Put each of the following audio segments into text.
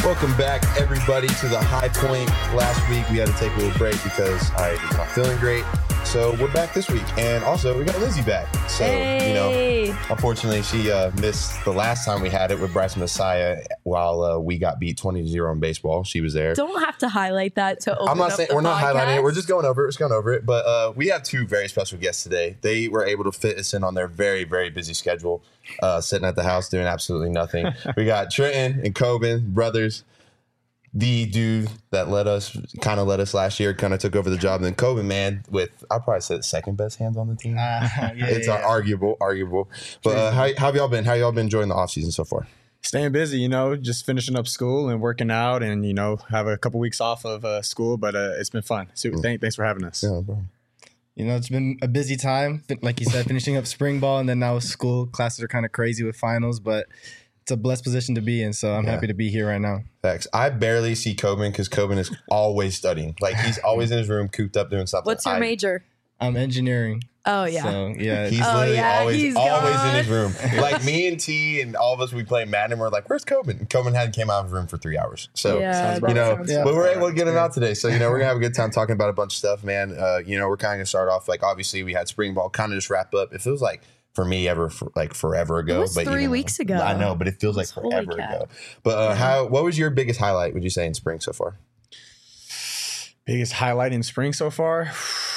Welcome back, everybody, to the High Point. Last week, we had to take a little break because I was not feeling great. So we're back this week. And also, we got Lizzie back. So, unfortunately, she missed the last time we had it with Bryce Messiah while we got beat 20-0 in baseball. She was there. Don't have to highlight that to open I'm not up saying the we're not podcast. highlighting it. We're just going over it. But we have two very special guests today. They were able to fit us in on their very, very busy schedule, sitting at the house doing absolutely nothing. We got Trenton and Coben, brothers. The dude that led us last year kind of took over the job. And then Coben, man, with, I'll probably say the second best hands on the team. Arguable. But how have y'all been? How y'all been enjoying the offseason so far? Staying busy, just finishing up school and working out and, have a couple weeks off of school. But it's been fun. So thanks for having us. Yeah, bro. It's been a busy time. Like you said, finishing up spring ball and then now school. Classes are kind of crazy with finals, but it's a blessed position to be in, so I'm happy to be here right now. Facts. I barely see Coben because Coben is always studying. Like, he's always in his room, cooped up doing something. What's your major? I'm engineering. Oh, yeah. So, yeah. He's literally always in his room. Like, me and T and all of us, we play Madden, and we're like, where's Coben? And Coben hadn't came out of his room for 3 hours. So, but we're able to get him out today. So, we're going to have a good time talking about a bunch of stuff, man. We're kind of going to start off, like, obviously, we had spring ball kind of just wrap up. It feels like, for me, forever ago. It was 3 weeks ago. I know, but it feels like forever ago. But what was your biggest highlight, would you say, in spring so far? Biggest highlight in spring so far?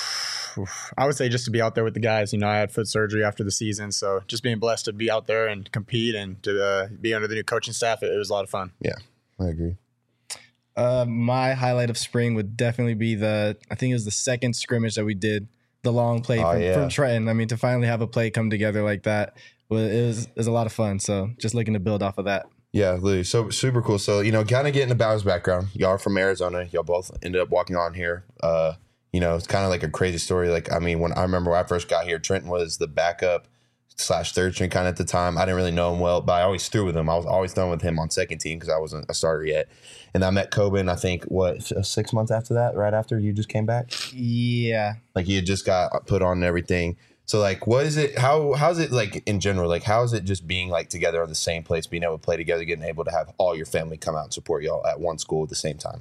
I would say just to be out there with the guys. I had foot surgery after the season, so just being blessed to be out there and compete and to be under the new coaching staff, it was a lot of fun. Yeah, I agree. My highlight of spring would definitely be I think it was the second scrimmage that we did. The long play from Trenton. I mean, to finally have a play come together like that, it was a lot of fun. So just looking to build off of that. Yeah, literally. So super cool. So, kind of getting about his background. Y'all are from Arizona. Y'all both ended up walking on here. It's kind of like a crazy story. Like, I mean, when I first got here, Trenton was the backup / third string kind of at the time. I didn't really know him well, but I always threw with him. I was always throwing with him on second team because I wasn't a starter yet. And I met Coben, I think, 6 months after that, right after you just came back? Yeah. Like, he had just got put on and everything. So, like, what is it? How's it, like, in general? Like, how is it just being, like, together on the same place, being able to play together, getting able to have all your family come out and support y'all at one school at the same time?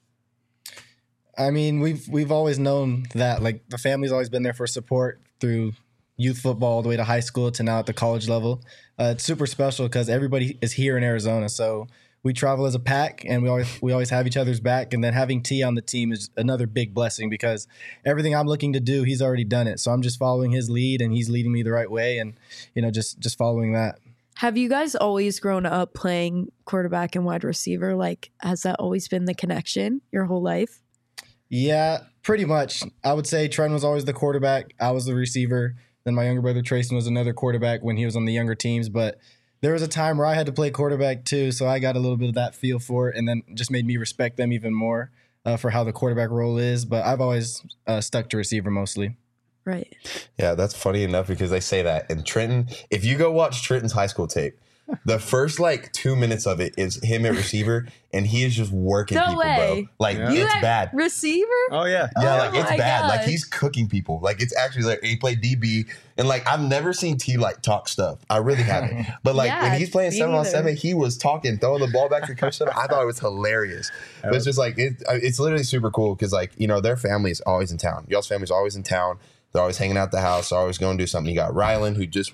I mean, we've always known that, like, the family's always been there for support through youth football all the way to high school to now at the college level. It's super special because everybody is here in Arizona, so we travel as a pack, and we always have each other's back. And then having T on the team is another big blessing because everything I'm looking to do, he's already done it. So I'm just following his lead, and he's leading me the right way, and just following that. Have you guys always grown up playing quarterback and wide receiver? Like, has that always been the connection your whole life? Yeah, pretty much. I would say Trent was always the quarterback. I was the receiver. Then my younger brother Trayson was another quarterback when he was on the younger teams. But there was a time where I had to play quarterback too, so I got a little bit of that feel for it, and then just made me respect them even more for how the quarterback role is. But I've always stuck to receiver mostly. Right. Yeah, that's funny enough because they say that. And Trenton, if you go watch Trenton's high school tape, the first 2 minutes of it is him at receiver, and he is just working people, bro. Like, it's bad. Receiver? Oh, yeah. Yeah, it's bad. Gosh. Like, he's cooking people. Like, it's actually like he played DB, and I've never seen T talk stuff. I really haven't. But when he's playing 7-on-7, he was talking, throwing the ball back to Coach 7. I thought it was hilarious. But it's just it's literally super cool because their family is always in town. Y'all's family's always in town. They're always hanging out at the house. They're always going to do something. You got Rylan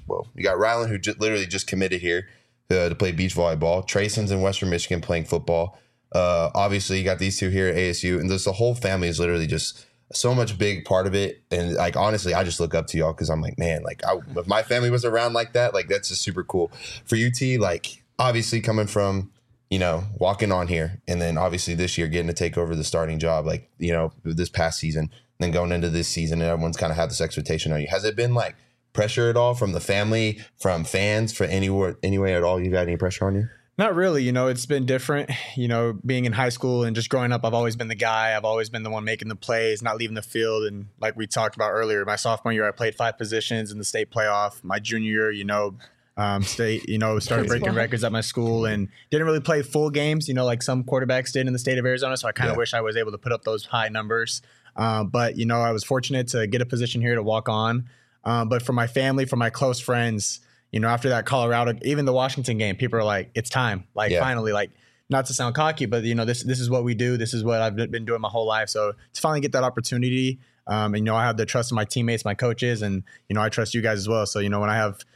who literally just committed here to play beach volleyball. Trayson's in Western Michigan playing football. Obviously, you got these two here at ASU, and the whole family is literally just so much big part of it. And honestly, I just look up to y'all because I'm like, man, if my family was around like that, that's just super cool. For UT, obviously coming from, walking on here, and then obviously this year getting to take over the starting job, this past season, then going into this season, and everyone's kind of had this expectation on you. Has it been pressure at all from the family, from fans, for any way at all? You got any pressure on you? Not really. It's been different. Being in high school and just growing up, I've always been the guy. I've always been the one making the plays, not leaving the field. And like we talked about earlier, my sophomore year, I played 5 positions in the state playoff. My junior year, state, started breaking records at my school and didn't really play full games, like some quarterbacks did in the state of Arizona. So I kind of wish I was able to put up those high numbers. But I was fortunate to get a position here to walk on. But for my family, for my close friends, after that Colorado, even the Washington game, people are like, it's time. Finally, not to sound cocky, but this is what we do. This is what I've been doing my whole life. So to finally get that opportunity, and I have the trust of my teammates, my coaches, and I trust you guys as well. So when I have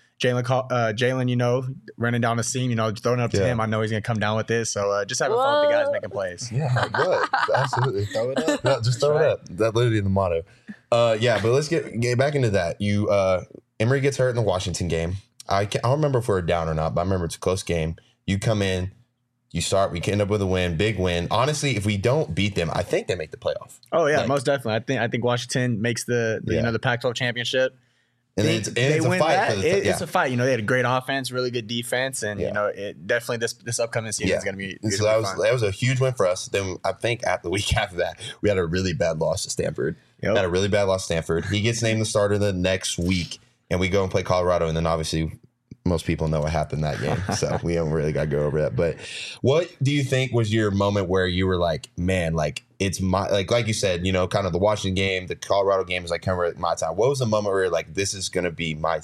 Jalen, running down the seam, throwing it up to him, I know he's gonna come down with this. So just having fun with the guys making plays. Yeah, good. Absolutely. Throw it up. No, just throw it up. That's literally the motto. But let's get back into that. You Emory gets hurt in the Washington game. I don't remember if we were down or not, but I remember it's a close game. You come in, you start, we end up with a win, big win. Honestly, if we don't beat them, I think they make the playoff. Oh yeah, most definitely. I think Washington makes the Pac-12 championship. And it's a fight. It's a fight. They had a great offense, really good defense, and it definitely this upcoming season is going to be. So that was a huge win for us. Then I think the week after that, we had a really bad loss to Stanford. Yep. Had a really bad loss to Stanford. He gets named the starter the next week, and we go and play Colorado, and then obviously most people know what happened that game, so we don't really got to go over that. But what do you think was your moment where you were like, man, like it's my, like you said, kind of the Washington game, the Colorado game is like kind of my time. What was the moment where you're like, this is going to be my,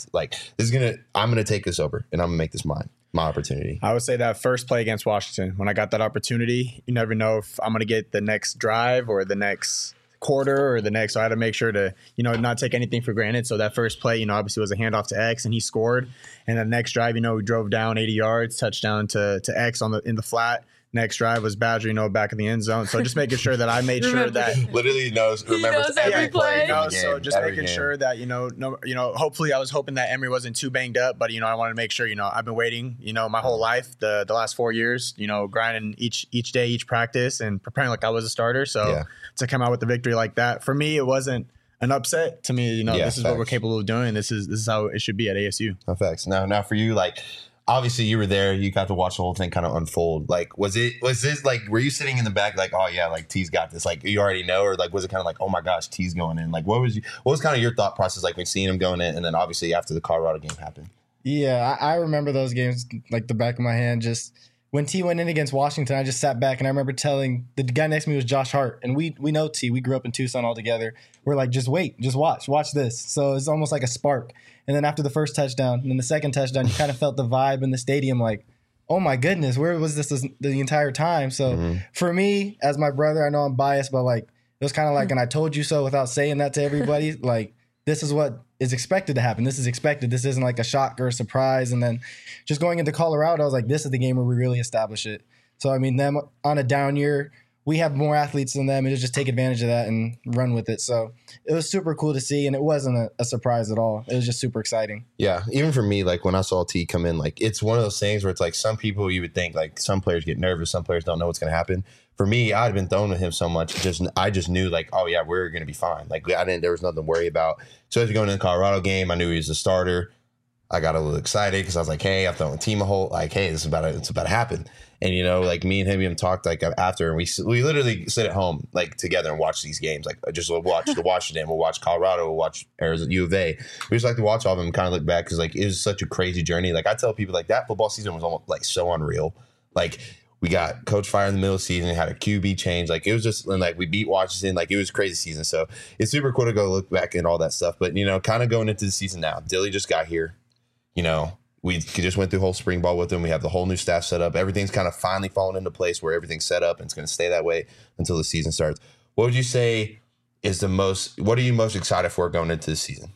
I'm going to take this over and I'm going to make this mine, my opportunity? I would say that first play against Washington, when I got that opportunity, you never know if I'm going to get the next drive or the next quarter or the next. So I had to make sure to, not take anything for granted. So that first play, obviously was a handoff to X and he scored. And the next drive, we drove down 80 yards, touchdown to X in the flat. Next drive was Badger, back in the end zone. So just making sure that I made sure that literally remembers every play. So just making sure that hopefully I was hoping that Emory wasn't too banged up, but I wanted to make sure I've been waiting my whole life, the last 4 years, grinding each day, each practice, and preparing like I was a starter. So to come out with the victory like that, for me, it wasn't an upset. To me, this is what we're capable of doing. This is how it should be at ASU. No facts. Now for you, like, obviously you were there, you got to watch the whole thing kind of unfold. Like, was this like, were you sitting in the back like, oh yeah, like T's got this, like you already know, or like was it kind of like, oh my gosh, T's going in? Like what was kind of your thought process like when seeing him going in, and then obviously after the Colorado game happened? Yeah, I remember those games like the back of my hand. Just when T went in against Washington, I just sat back and I remember telling the guy next to me was Josh Hart, and we know T. We grew up in Tucson all together. We're like, just wait, just watch this. So it's almost like a spark. And then after the first touchdown and then the second touchdown, you kind of felt the vibe in the stadium like, oh my goodness, where was this the entire time? So for me, as my brother, I know I'm biased, but like it was kind of like, and I told you so without saying that to everybody, like this is what is expected to happen. This is expected. This isn't like a shock or a surprise. And then just going into Colorado, I was like, this is the game where we really establish it. So, I mean, them on a down year, we have more athletes than them, and just take advantage of that and run with it. So it was super cool to see, and it wasn't a surprise at all. It was just super exciting. Yeah, even for me, like when I saw T come in, like it's one of those things where it's like some people you would think like some players get nervous, some players don't know what's going to happen. For me, I'd been thrown with him so much, I just knew like, oh yeah, we're going to be fine. Like there was nothing to worry about. So as we going into the Colorado game, I knew he was the starter. I got a little excited because I was like, hey, I've thrown the team a whole, like, hey, it's about to happen. And, like me and him even talked like after, and we literally sit at home like together and watch these games. Like just watch the Washington, we'll watch Colorado, we'll watch Arizona, U of A. We just like to watch all of them and kind of look back because like it was such a crazy journey. Like I tell people like that football season was almost like so unreal. Like we got coach fired in the middle of the season, had a QB change. Like it was just, and like we beat Washington. Like it was a crazy season. So it's super cool to go look back and all that stuff. But, kind of going into the season now, Dilly just got here. We just went through whole spring ball with him. We have the whole new staff set up. Everything's kind of finally fallen into place where everything's set up and it's going to stay that way until the season starts. What would you say is what are you most excited for going into the season?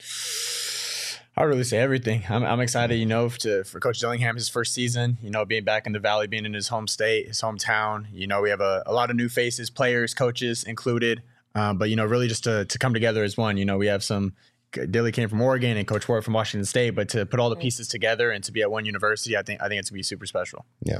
I would really say everything. I'm excited, for Coach Dillingham, his first season, being back in the Valley, being in his home state, his hometown. We have a lot of new faces, players, coaches included. But, really just to come together as one. We have some – Dilly came from Oregon and Coach Ward from Washington State, but to put all the pieces together and to be at one university, I think it's going to be super special. Yeah.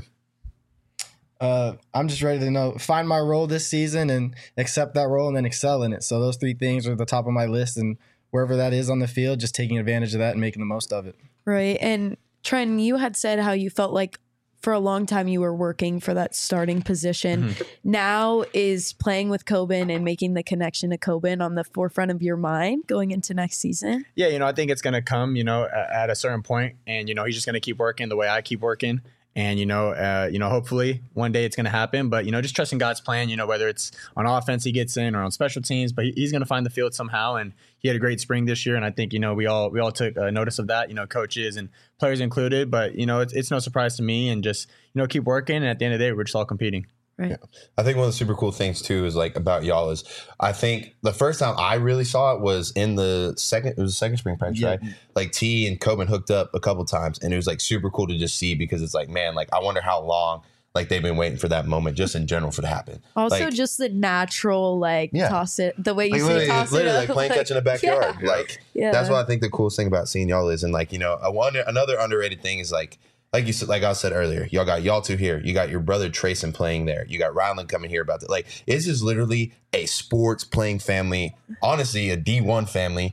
I'm just ready to find my role this season and accept that role and then excel in it. So those three things are at the top of my list, and wherever that is on the field, just taking advantage of that and making the most of it. Right. And Trent, you had said how you felt like for a long time you were working for that starting position. Mm-hmm. Now is playing with Coben and making the connection to Coben on the forefront of your mind going into next season? Yeah, I think it's going to come, at a certain point, and, he's just going to keep working the way I keep working. And, hopefully one day it's going to happen. But, just trusting God's plan, whether it's on offense he gets in or on special teams, but he's going to find the field somehow. And he had a great spring this year. And I think, we all took notice of that, coaches and players included. But, it's no surprise to me, and just, keep working. And at the end of the day, we're just all competing. Right. Yeah. I think one of the super cool things too is like about y'all is I think the first time I really saw it was in the second spring practice, right? Like T and Coben hooked up a couple times, and it was like super cool to just see, because it's like, man, like I wonder how long like they've been waiting for that moment just in general for it to happen. Also, like, just the natural toss it, the way you like, say toss it literally up, like playing catch in the backyard. Yeah. That's what I think the coolest thing about seeing y'all is. And like, another underrated thing is like you said, like I said earlier, y'all two here. You got your brother Trayson playing there. You got Rylan coming here about that. Like, it's just literally a sports playing family. Honestly, a D1 family.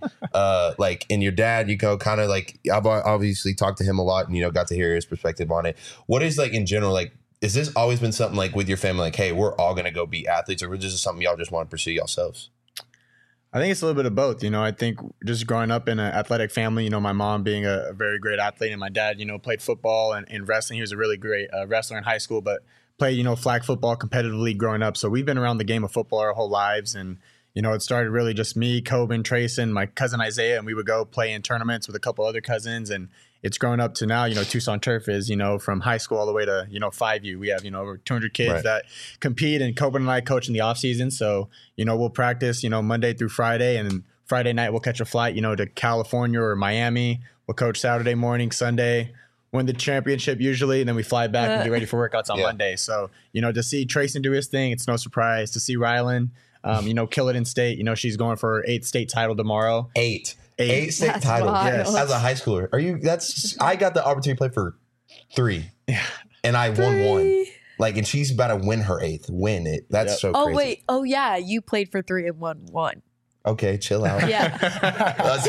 And your dad, kind of like, I've obviously talked to him a lot and, got to hear his perspective on it. What is like in general, like, has this always been something like with your family, like, hey, we're all going to go be athletes, or is this something y'all just want to pursue yourselves? I think it's a little bit of both. I think just growing up in an athletic family, my mom being a very great athlete, and my dad, played football and wrestling. He was a really great wrestler in high school, but played, flag football competitively growing up. So we've been around the game of football our whole lives. And, it started really just me, Coben, Trayson, my cousin Isaiah, and we would go play in tournaments with a couple other cousins. And it's grown up to now, Tucson Turf is, from high school all the way to, 5U. We have, over 200 kids that compete, and Coben and I coach in the off season. So, we'll practice, Monday through Friday, and then Friday night we'll catch a flight, to California or Miami. We'll coach Saturday morning, Sunday, win the championship usually, and then we fly back and get ready for workouts on Monday. So, to see Trayson do his thing, it's no surprise. To see Rylan, kill it in state. She's going for her 8th state title tomorrow. 8 state titles. Yes. As a high schooler. I got the opportunity to play for 3. Yeah. And I won 1. Like, and she's about to win her 8th. Win it. That's so crazy. Oh, wait. Oh, yeah. You played for 3 and won 1. Okay, chill out. Yeah. To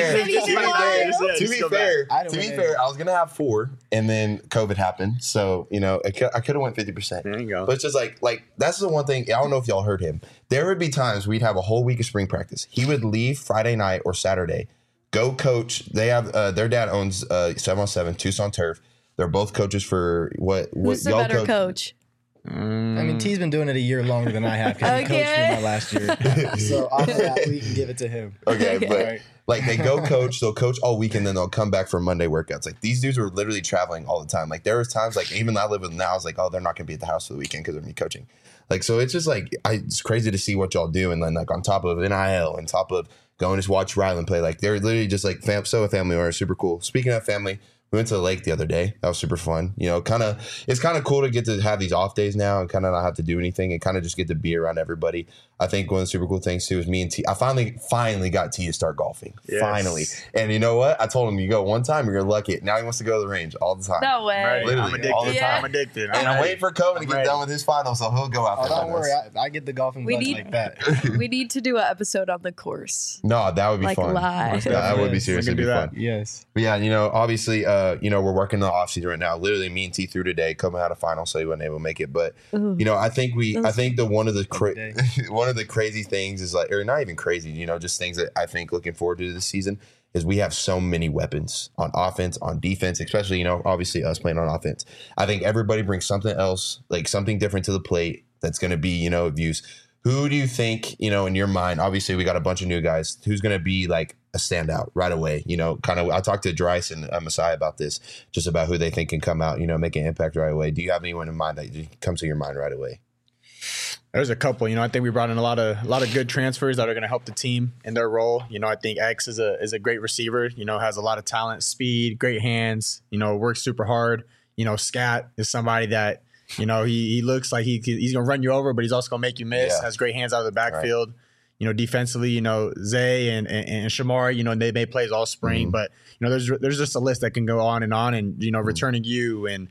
be fair, I was gonna have 4, and then COVID happened. So I could have went 50%. There you go. But it's just like that's the one thing. I don't know if y'all heard him. There would be times we'd have a whole week of spring practice. He would leave Friday night or Saturday, go coach. They have their dad owns 7on7 Tucson Turf. They're both coaches for what Who's the y'all better coach? I mean, T's been doing it a year longer than I have, because he coached me my last year. So off of that, we can give it to him. Okay, but like they go coach, they'll coach all week, and then they'll come back for Monday workouts. Like, these dudes are literally traveling all the time. Like, there was times, like, even I live with them now, I was like, oh, they're not going to be at the house for the weekend because of me coaching. Like, so it's just like, it's crazy to see what y'all do. And then like on top of NIL, on top of going to watch Rylan play, like they're literally just like so a family or super cool. Speaking of family, we went to the lake the other day. That was super fun. It's kind of cool to get to have these off days now and kind of not have to do anything and kind of just get to be around everybody. I think one of the super cool things too is me and T. I finally got T to start golfing. Yes. Finally. And you know what? I told him, you go one time, you're lucky. Now he wants to go to the range all the time. No way. Right. Literally, all the time. I'm addicted. And I'm waiting for Coben to get done with his final, so he'll go out there. Don't worry. I get the golfing bugs like that. We need to do an episode on the course. No, that would be fun. Live. That would be seriously be fun. Yes. But yeah, obviously, we're working the off season right now. Literally, me and T threw today. Coben had a final, so he wasn't able to make it. But I think one of the crazy things is like, or not even crazy, just things that I think looking forward to this season is we have so many weapons on offense, on defense, especially, obviously us playing on offense. I think everybody brings something else, like something different to the plate that's going to be, of use. Who do you think, in your mind, obviously we got a bunch of new guys, who's going to be like a standout right away? I talked to Dryce and Messiah about this, just about who they think can come out, make an impact right away. Do you have anyone in mind that comes to your mind right away? There's a couple. I think we brought in a lot of good transfers that are going to help the team in their role. I think X is a great receiver. Has a lot of talent, speed, great hands. Works super hard. Scat is somebody that he looks like he's going to run you over, but he's also going to make you miss. Has great hands out of the backfield. Right. Defensively, Zay and Shamar, they made plays all spring, but there's just a list that can go on, and returning you and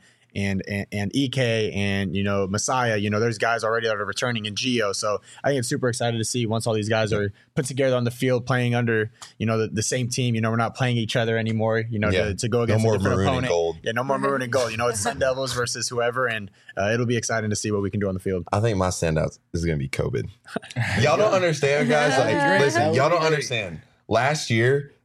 EK and Messiah, there's guys already that are returning in Geo. So I think it's super excited to see once all these guys are put together on the field playing under the same team. We're not playing each other anymore. To go against a different opponent. Gold. Yeah, no more maroon and gold. It's Sun Devils versus whoever, and it'll be exciting to see what we can do on the field. I think my standout is going to be Coben. Y'all don't understand, guys. Listen, y'all don't understand. Last year,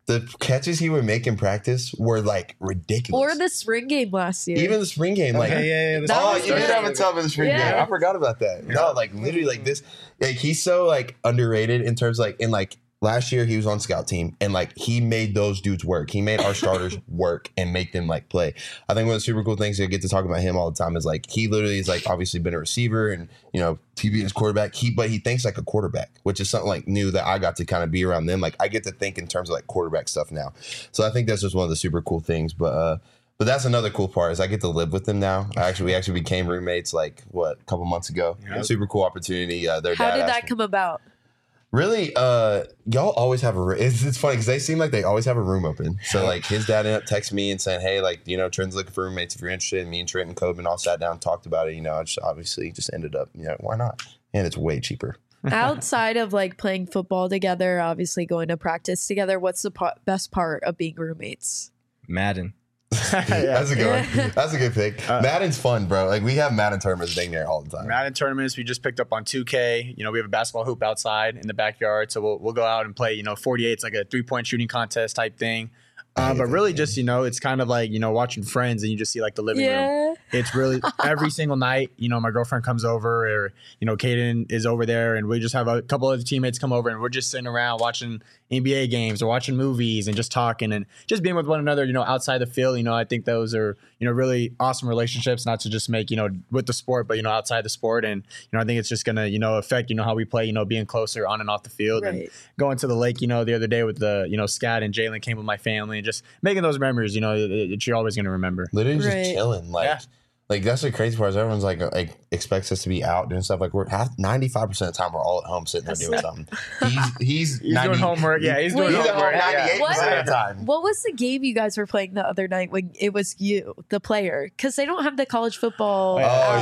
The catches he would make in practice were like ridiculous. Or the spring game last year. Even the spring game, like yeah. You did have a tough in the spring game. I forgot about that. No, like literally, like this, like he's so like underrated in terms of, like in like last year he was on scout team and like he made those dudes work. He made our starters work and make them like play. I think one of the super cool things I get to talk about him all the time is like he literally is like obviously been a receiver and TB is quarterback. But he thinks like a quarterback, which is something like new that I got to kind of be around them. Like I get to think in terms of like quarterback stuff now. So I think that's just one of the super cool things. But that's another cool part is I get to live with them now. We actually became roommates like a couple months ago. Yep. Super cool opportunity. How did that come about? Really, y'all always have it's funny because they seem like they always have a room open. So like his dad ended up texting me and saying, hey, like, Trent's looking for roommates if you're interested. And me and Trent and Coben all sat down and talked about it. I just obviously just ended up, why not? And it's way cheaper. Outside of like playing football together, obviously going to practice together, what's the best part of being roommates? Madden. That's a good one. That's a good pick. Madden's fun, bro. Like we have Madden tournaments dang there all the time. Madden tournaments. We just picked up on 2K. We have a basketball hoop outside in the backyard, so we'll go out and play. 48. It's like a 3-point shooting contest type thing. But really just, it's kind of like, watching Friends and you just see like the living room. It's really every single night, my girlfriend comes over or, Kaden is over there and we just have a couple other teammates come over and we're just sitting around watching NBA games or watching movies and just talking and just being with one another, outside the field. I think those are, really awesome relationships, not to just make, with the sport, but, outside the sport. And, I think it's just going to, affect, how we play, being closer on and off the field and going to the lake, the other day with the, Scat and Jalen came with my family and just making those memories, that you're always going to remember. Literally just chilling. Like that's the crazy part is everyone's like expects us to be out doing stuff. Like we're 95% of the time we're all at home sitting there doing something. He's doing homework. Yeah, he's doing homework. 98% of the time. What was the game you guys were playing the other night when it was you, the player? Because they don't have the college football. So what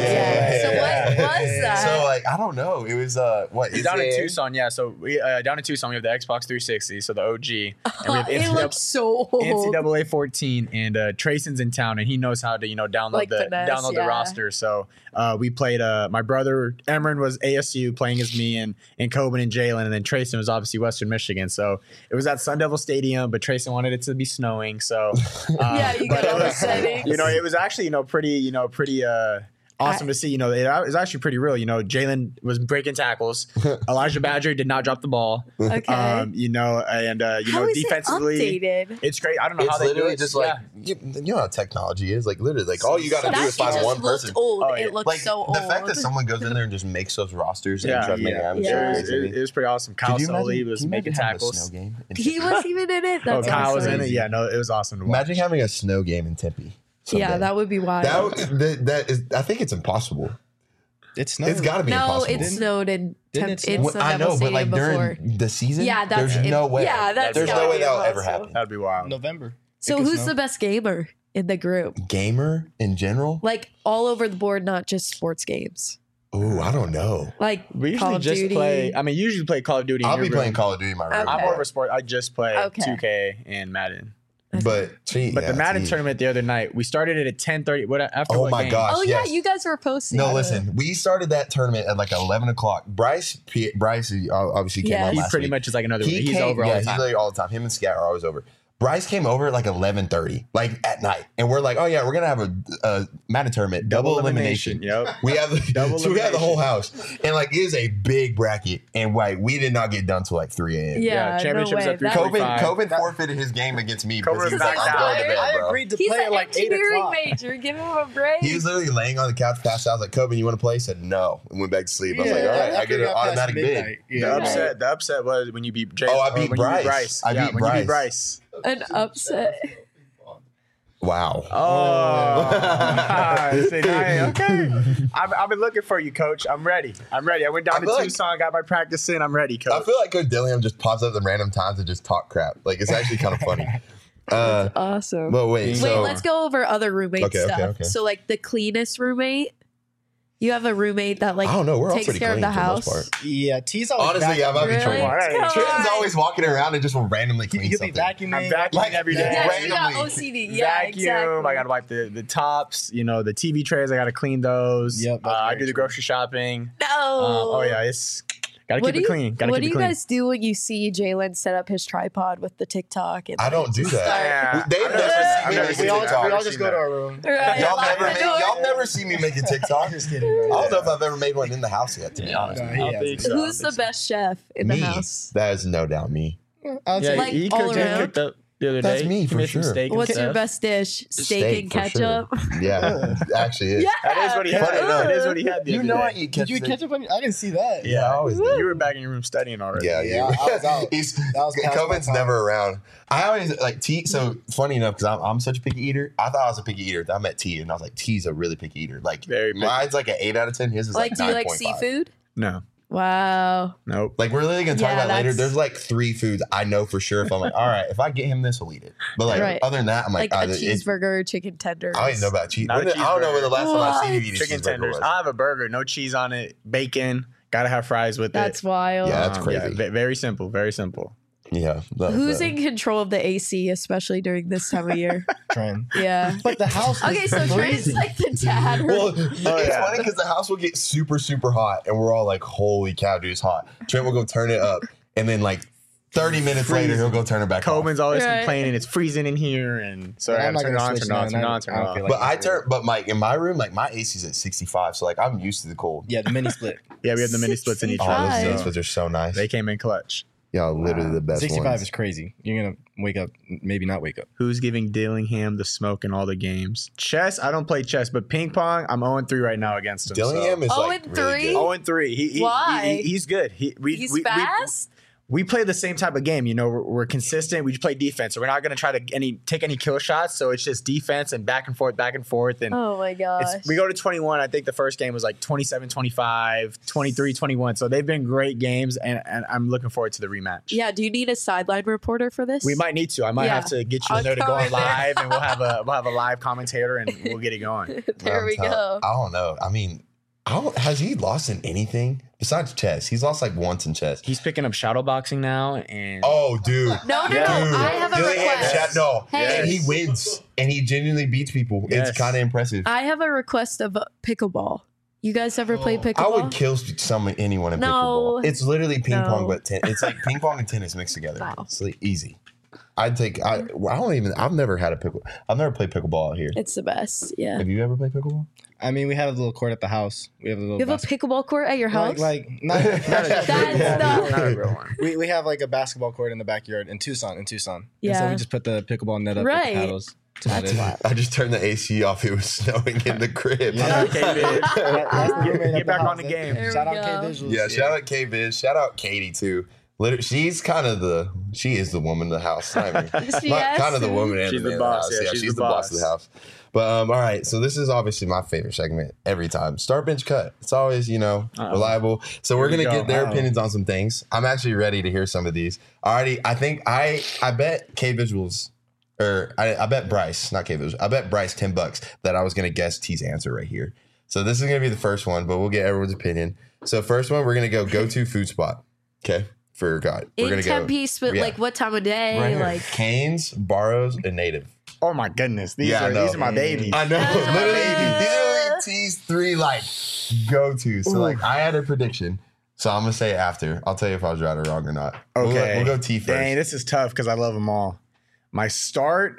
was that? So like I don't know. It was what? Down in Tucson. Yeah. So we down in Tucson we have the Xbox 360. So the OG. And we have it looks so old. NCAA 14 and Trayson's in town and he knows how to download like download the roster. So we played my brother Emron was ASU playing as me and Coben and Jalen, and then Trayson was obviously Western Michigan. So it was at Sun Devil Stadium, but Trayson wanted it to be snowing. So you got all the settings. It was actually pretty awesome to see. It was actually pretty real. Jalen was breaking tackles. Elijah Badger did not drop the ball. Okay. And how is defensively, it updated? it's great. I don't know how they do it. Just like you know how technology is. Like literally, like all you got to do is find one person. Old. It looked like, so old. The fact that someone goes in there and just makes those rosters and tries to make it was pretty awesome. Kyle Sully was making tackles. He was even in it. That's Kyle was in it. Yeah, no, it was awesome to watch. Imagine having a snow game in Tempe. Someday. Yeah, that would be wild. That is. I think it's impossible. It's snowed. It's got to be impossible. No, it snowed in I know, but like during the season, there's no way. Yeah, there's no way that'll ever happen. That'd be wild. November. So who's the best gamer in the group? Gamer in general? Like all over the board, not just sports games. Ooh, I don't know. Like we usually Call of just Duty. play. I mean, usually play Call of Duty. I'll be playing Call of Duty in my room. I'm more of a sport. I just play 2K and Madden. But the Madden tournament the other night, we started it at 10:30. After oh my game? gosh! Oh yeah, you guys were posting. No, listen, we started that tournament at like 11 o'clock. Bryce obviously came on last week. He pretty much is like another. He's over all the time. He's literally all the time. Him and Scat are always over. Bryce came over at like 11:30, like at night, and we're like, "Oh yeah, we're gonna have a Madden tournament, double elimination." Yep, we have we have the whole house, and like it is a big bracket, and we did not get done till like 3 a.m. Yeah, championships at 3:45. Coben forfeited his game against me because he was like, "I'm going to bed, bro." I agreed to play at like 8 o'clock. Major, give him a break. He was literally laying on the couch, passed out. I was like, "Coben, you want to play?" He said no, and went back to sleep. I was like, "All right, I get an automatic bid." The upset was when you beat Jay. I beat Bryce. I beat Bryce. An upset. Wow. Okay. I've been looking for you, Coach. I'm ready. I went down to Tucson, got my practice in. I'm ready, Coach. I feel like Coach Dillingham just pops up at random times and just talk crap. Like it's actually kind of funny. That's awesome. But wait, let's go over other roommate stuff. Okay. So like the cleanest roommate. You have a roommate that like takes care of the house. Yeah, T's always honestly, I might be Trent. Trent's always walking around and just will randomly clean He'll something. Be vacuuming. I'm vacuuming every day. Yeah, you got OCD. Yeah, vacuum. Exactly. I gotta wipe the tops. The TV trays. I gotta clean those. Yep. I do the grocery shopping. No. Yeah, it's Gotta keep it clean. What do you guys do when you see Jalen set up his tripod with the TikTok? And I don't do that. They've never seen me make a We TikTok. all just go to our room. Right. Y'all never see me make a TikTok. Just kidding. I don't know if I've ever made one in the house yet, to be honest. Who's the best chef in the house? That is no doubt me. I would say Like, he all cooked around? up the other That's day. me, He for made some sure. steak and What's your stuff. best dish? Steak and for ketchup? Sure. Yeah, it actually is. Yeah. That is what he had. Funny enough. That is what he had the You other know I day. eat Did ketchup. you catch up on? I didn't see that. Yeah, I always do. You were back in your room studying already. Yeah, Yeah, I was out. Coben's never around. I always like T. So funny enough, because I'm such a picky eater. I thought I was a picky eater. I met T, and I was like, T's a really picky eater. Like, Very picky. mine's like an 8 out of 10. His is Like, like do you like 9.5. seafood? No. Wow. Nope. Like, we're literally gonna talk Yeah, about it later. that's- There's like 3 foods I know for sure. If I'm like, all right, if I get him this, he'll eat it. But like, Right. other than that, I'm like, Like a it's- cheeseburger, chicken tenders. I don't even know about cheese. Not a I don't know when the last time I seen you eat a Chicken cheeseburger tenders. was. I'll have a burger, no cheese on it, bacon. Gotta have fries with That's it. wild. Yeah, that's crazy. Very simple. Very simple. Yeah. Who's in control of the AC, especially during this time of year? Trent. Yeah. But the house. Okay, so Trent's like the dad. Well, it's funny because the house will get super, super hot, and we're all like, "Holy cow, dude, it's hot." Trent will go turn it up, and then like 30 minutes later, he'll go turn it back Coben's off. always Right. complaining it's freezing in here, and so I I'm gotta not turn it gonna on, switch turn it on, none. turn it on, I turn it don't on. feel like But Mike, in my room, like my AC's at 65, so like I'm used to the cold. Yeah, the mini split. Yeah, we have the mini splits in each Oh, room. those Five. mini So splits are so nice. they came in clutch. Y'all literally the best 65 ones. is crazy. You're gonna wake up, maybe not wake up. Who's giving Dillingham the smoke in all the games? Chess, I don't play chess, but ping pong, I'm 0-3 right now against him. Dillingham is like 0-3? really good. 0-3. Why? He's good. He's fast? We play the same type of game. You know, we're consistent. We just play defense. So we're not going to try to take any kill shots. So it's just defense and back and forth. And Oh my gosh. we go to 21. I think the first game was like 27-25, 23-21. So they've been great games, and I'm looking forward to the rematch. Yeah, do you need a sideline reporter for this? We might need to. I might Yeah. have to get you in I'll there to come go on in there. live, and we'll have a live commentator, and we'll get it going. There we go. I don't know. I mean, has he lost in anything besides chess? He's lost like once in chess. He's picking up shadow boxing now, and Oh, dude. No, Yeah. I have a Dillingham request. No, Hey. and he wins, and he genuinely beats people. Yes. It's kind of impressive. I have a request of pickleball. You guys ever play pickleball? I would kill anyone in No. pickleball. It's literally ping No. pong, but it's like ping pong and tennis mixed together. Wow. It's like easy. I've never had a pickle. I've never played pickleball out here. It's the best. Yeah. Have you ever played pickleball? I mean, we have a little court at the house. We have a little. You have a pickleball court at your house? like not, That's not a real one. we have like a basketball court in the backyard in Tucson. And so Yeah. we just put the pickleball net up Right. with the paddles. to That's it. wild. I just turned the AC off. It was snowing in the crib. Yeah. Okay, man. That's the roommate Get of back house. on the game. There Shout we out go. K Visuals. Yeah, shout out K Biz. Shout out Katie too. Literally, she's kind of she is the woman of the house. I mean, Yes. kind of the woman and She's the the man boss, of the house. yeah, Yeah, she's she's the the boss of boss. the house. But all right, so this is obviously my favorite segment every time. Start bench cut. It's always reliable. So we're Here we gonna go. get their Uh-oh. opinions on some things. I'm actually ready to hear some of these. I think I bet K Visuals. Or I bet Bryce, not K Visuals. I bet Bryce $10 that I was gonna guess T's answer right here. So this is gonna be the first one, but we'll get everyone's opinion. So first one, we're gonna go to food spot. Okay, for God, we're In gonna 10 go piece, but yeah. like what time of day? right here. Like Canes, Barrows, and Native. Oh my goodness, these Yeah, I are know. my babies. I know, these are like T's 3 like go to. So like I had a prediction. So I'm gonna say it after. I'll tell you if I was right or wrong or not. Okay, we'll go T first. Dang, this is tough because I love them all. My start,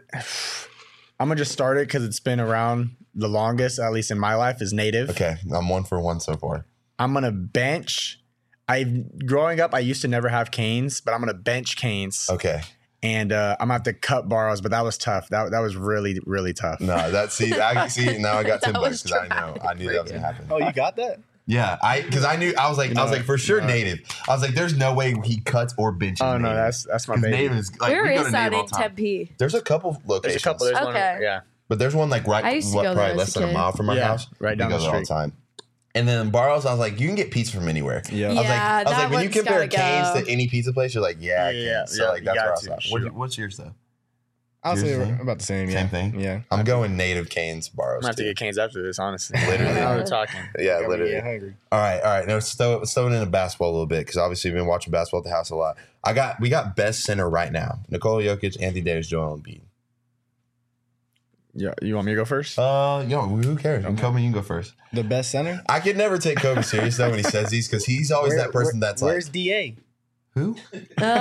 I'm gonna just start it because it's been around the longest, at least in my life, is Native. Okay, I'm 1 for 1 so far. I'm gonna bench. Growing up, I used to never have Canes, but I'm gonna bench Canes. Okay. And I'm gonna have to cut Barrows, but that was tough. That was really, really tough. No, I see now I got $10 That was because I knew that was gonna happen. Oh, you got that? Yeah, because I was like for sure Native. I was like, there's no way he cuts or benches. Oh no, Native. that's my 'Cause baby. Native is like where we go is to that Native all in the time. Tempe? There's a couple locations. There's a couple. There's Okay. one. Yeah. But there's one like I used to go there probably as less a than a kid. mile from our Yeah, house. right down we go the there all the street. time. And then Barrows, I was like, you can get pizza from anywhere. Yeah. I was Yeah, like, that when you one's compare gotta Canes go. to any pizza place, you're like, yeah, Yeah, Canes. So yeah, like that's you where I got was at. to, sure. What's yours though? I'll Yours say same? about the same. Same thing? Yeah. I'm going Native Canes, Barrows. I'm gonna have to too. get Canes after this, honestly. Literally. Now we're talking. Yeah, Got me literally. getting hungry. All right. Now let's throw it into basketball a little bit because obviously we've been watching basketball at the house a lot. We got best center right now: Nikola Jokic, Anthony Davis, Joel Embiid. Yeah, you want me to go first? Who cares? Kobe, you can go first. The best center? I could never take Kobe serious though when he says these because he's always that person that's like. Where's DA? Who? He's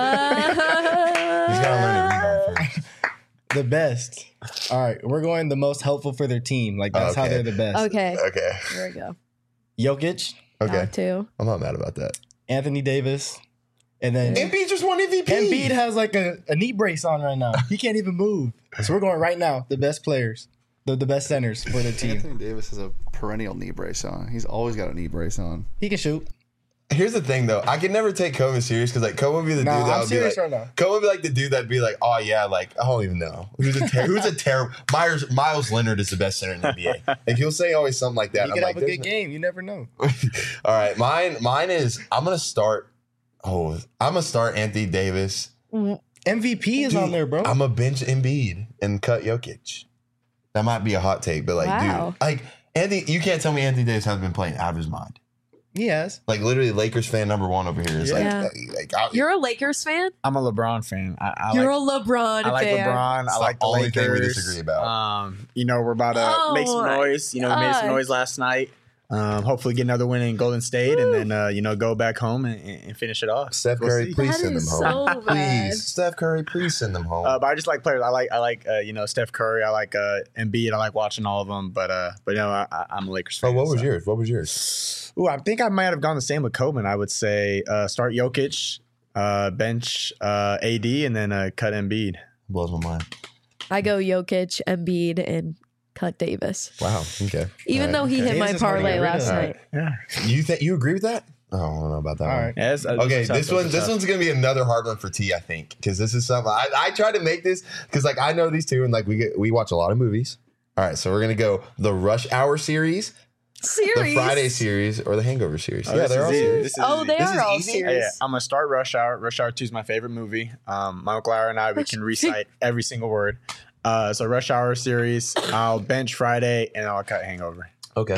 got to learn to read on first. The best. All right, we're going the most helpful for their team. Like that's how they're the best. Okay. Okay. Here we go. Jokic. Okay. Top two. I'm not mad about that. Anthony Davis. And then Embiid just won MVP. Embiid has like a knee brace on right now. He can't even move. So we're going right now. The best players. The best centers for the team. Anthony Davis has a perennial knee brace on. He's always got a knee brace on. He can shoot. Here's the thing, though. I can never take Kobe serious because, like, Kobe would be the dude that I'm would be serious like, right now. Kobe would be like the dude that'd be like, oh yeah, like I don't even know who's a terrible. Miles Leonard is the best center in the NBA. Like he'll say always something like that. He could have a good game. You never know. All right, mine is I'm gonna start Anthony Davis. MVP is on there, bro. I'm a bench Embiid and cut Jokic. That might be a hot take, but like, dude, like Anthony, you can't tell me Anthony Davis hasn't been playing out of his mind. He has. Like literally, Lakers fan number one over here is You're a Lakers fan? I'm a LeBron fan. You're a LeBron fan. I like LeBron. I like the only Lakers. thing we disagree about. We're about to make some noise. We made some noise last night. Hopefully get another win in Golden State and then, go back home and finish it off. Steph Curry, please send them home. Please. Steph Curry, please send them home. But I just like players. I like Steph Curry. I like Embiid. I like watching all of them. But I'm a Lakers fan. Oh, what was yours? Ooh, I think I might have gone the same with Kobe. I would say start Jokic, bench AD, and then cut Embiid. Blows my mind. I go Jokic, Embiid, and cut Davis. Wow. Okay. Even though he hit my parlay last night. Yeah. You agree with that? Oh, I don't know about that. All one. right. Yeah, Okay, this one's gonna be another hard one for T, I think, because this is something I try to make this because like I know these two and like we watch a lot of movies. All right, so we're gonna go the Rush Hour series, the Friday series, or the Hangover series. Yeah, they're all series. They are all series. Yeah, I'm gonna start Rush Hour. Rush Hour 2 is my favorite movie. Michael Lauer and I we can recite every single word. So Rush Hour series. I'll bench Friday and I'll cut Hangover. Okay.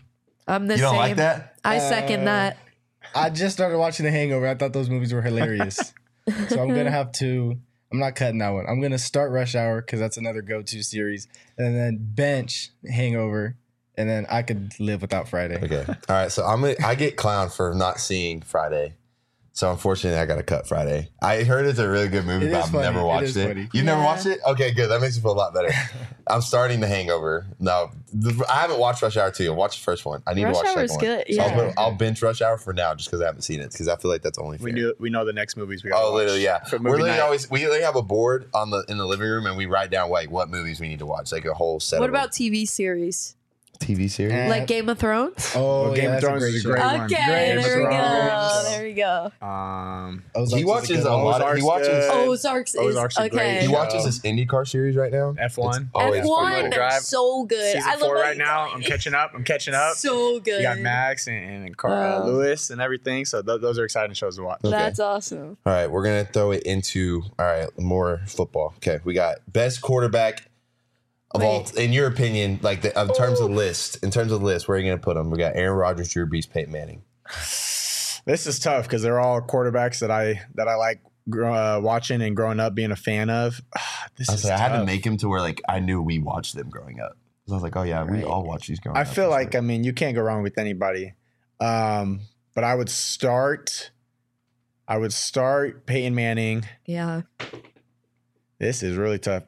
I'm the You same. don't like that? I second that. I just started watching The Hangover. I thought those movies were hilarious. So I'm gonna have to. I'm not cutting that one. I'm gonna start Rush Hour because that's another go-to series, and then bench Hangover, and then I could live without Friday. Okay. All right. So I get clowned for not seeing Friday. So unfortunately, I got to cut Friday. I heard it's a really good movie, It but is I've funny. never watched It is it. funny. You've never watched it? Okay, good. That makes me feel a lot better. I'm starting The Hangover. No, I haven't watched Rush Hour 2. I watched the first one. I need to watch the Rush second Hour's one. good, So yeah. I'll binge Rush Hour for now just because I haven't seen it because I feel like that's only fair. We know the next movies we got. Oh, literally, yeah. For We're movie literally night. we literally have a board in the living room and we write down like what movies we need to watch, like a whole set. What of them. about TV series? TV series? Like Game of Thrones? Oh, Game of that's Thrones is a great one. Okay, Game of there we go. Thrones. There we go. Ozarks He is watches good a one. lot. Ozark's He watches. good. Ozarks is Ozark's a great okay. He show. watches this IndyCar series right now. F1. always F1, Drive. so good. Season I love 4 how right you now. tell I'm me. catching up. So good. You got Max and Lewis and everything. So those are exciting shows to watch. Okay. That's awesome. All right, we're gonna throw it into more football. Okay, we got best quarterback of all. In your opinion, like in terms of list, where are you gonna put them? We got Aaron Rodgers, Drew Brees, Peyton Manning. This is tough because they're all quarterbacks that I like watching and growing up being a fan of. I had to make him to where like I knew we watched them growing up. So I was like, oh yeah, we all watch these growing up. I feel like you can't go wrong with anybody. But I would start Peyton Manning. Yeah. This is really tough.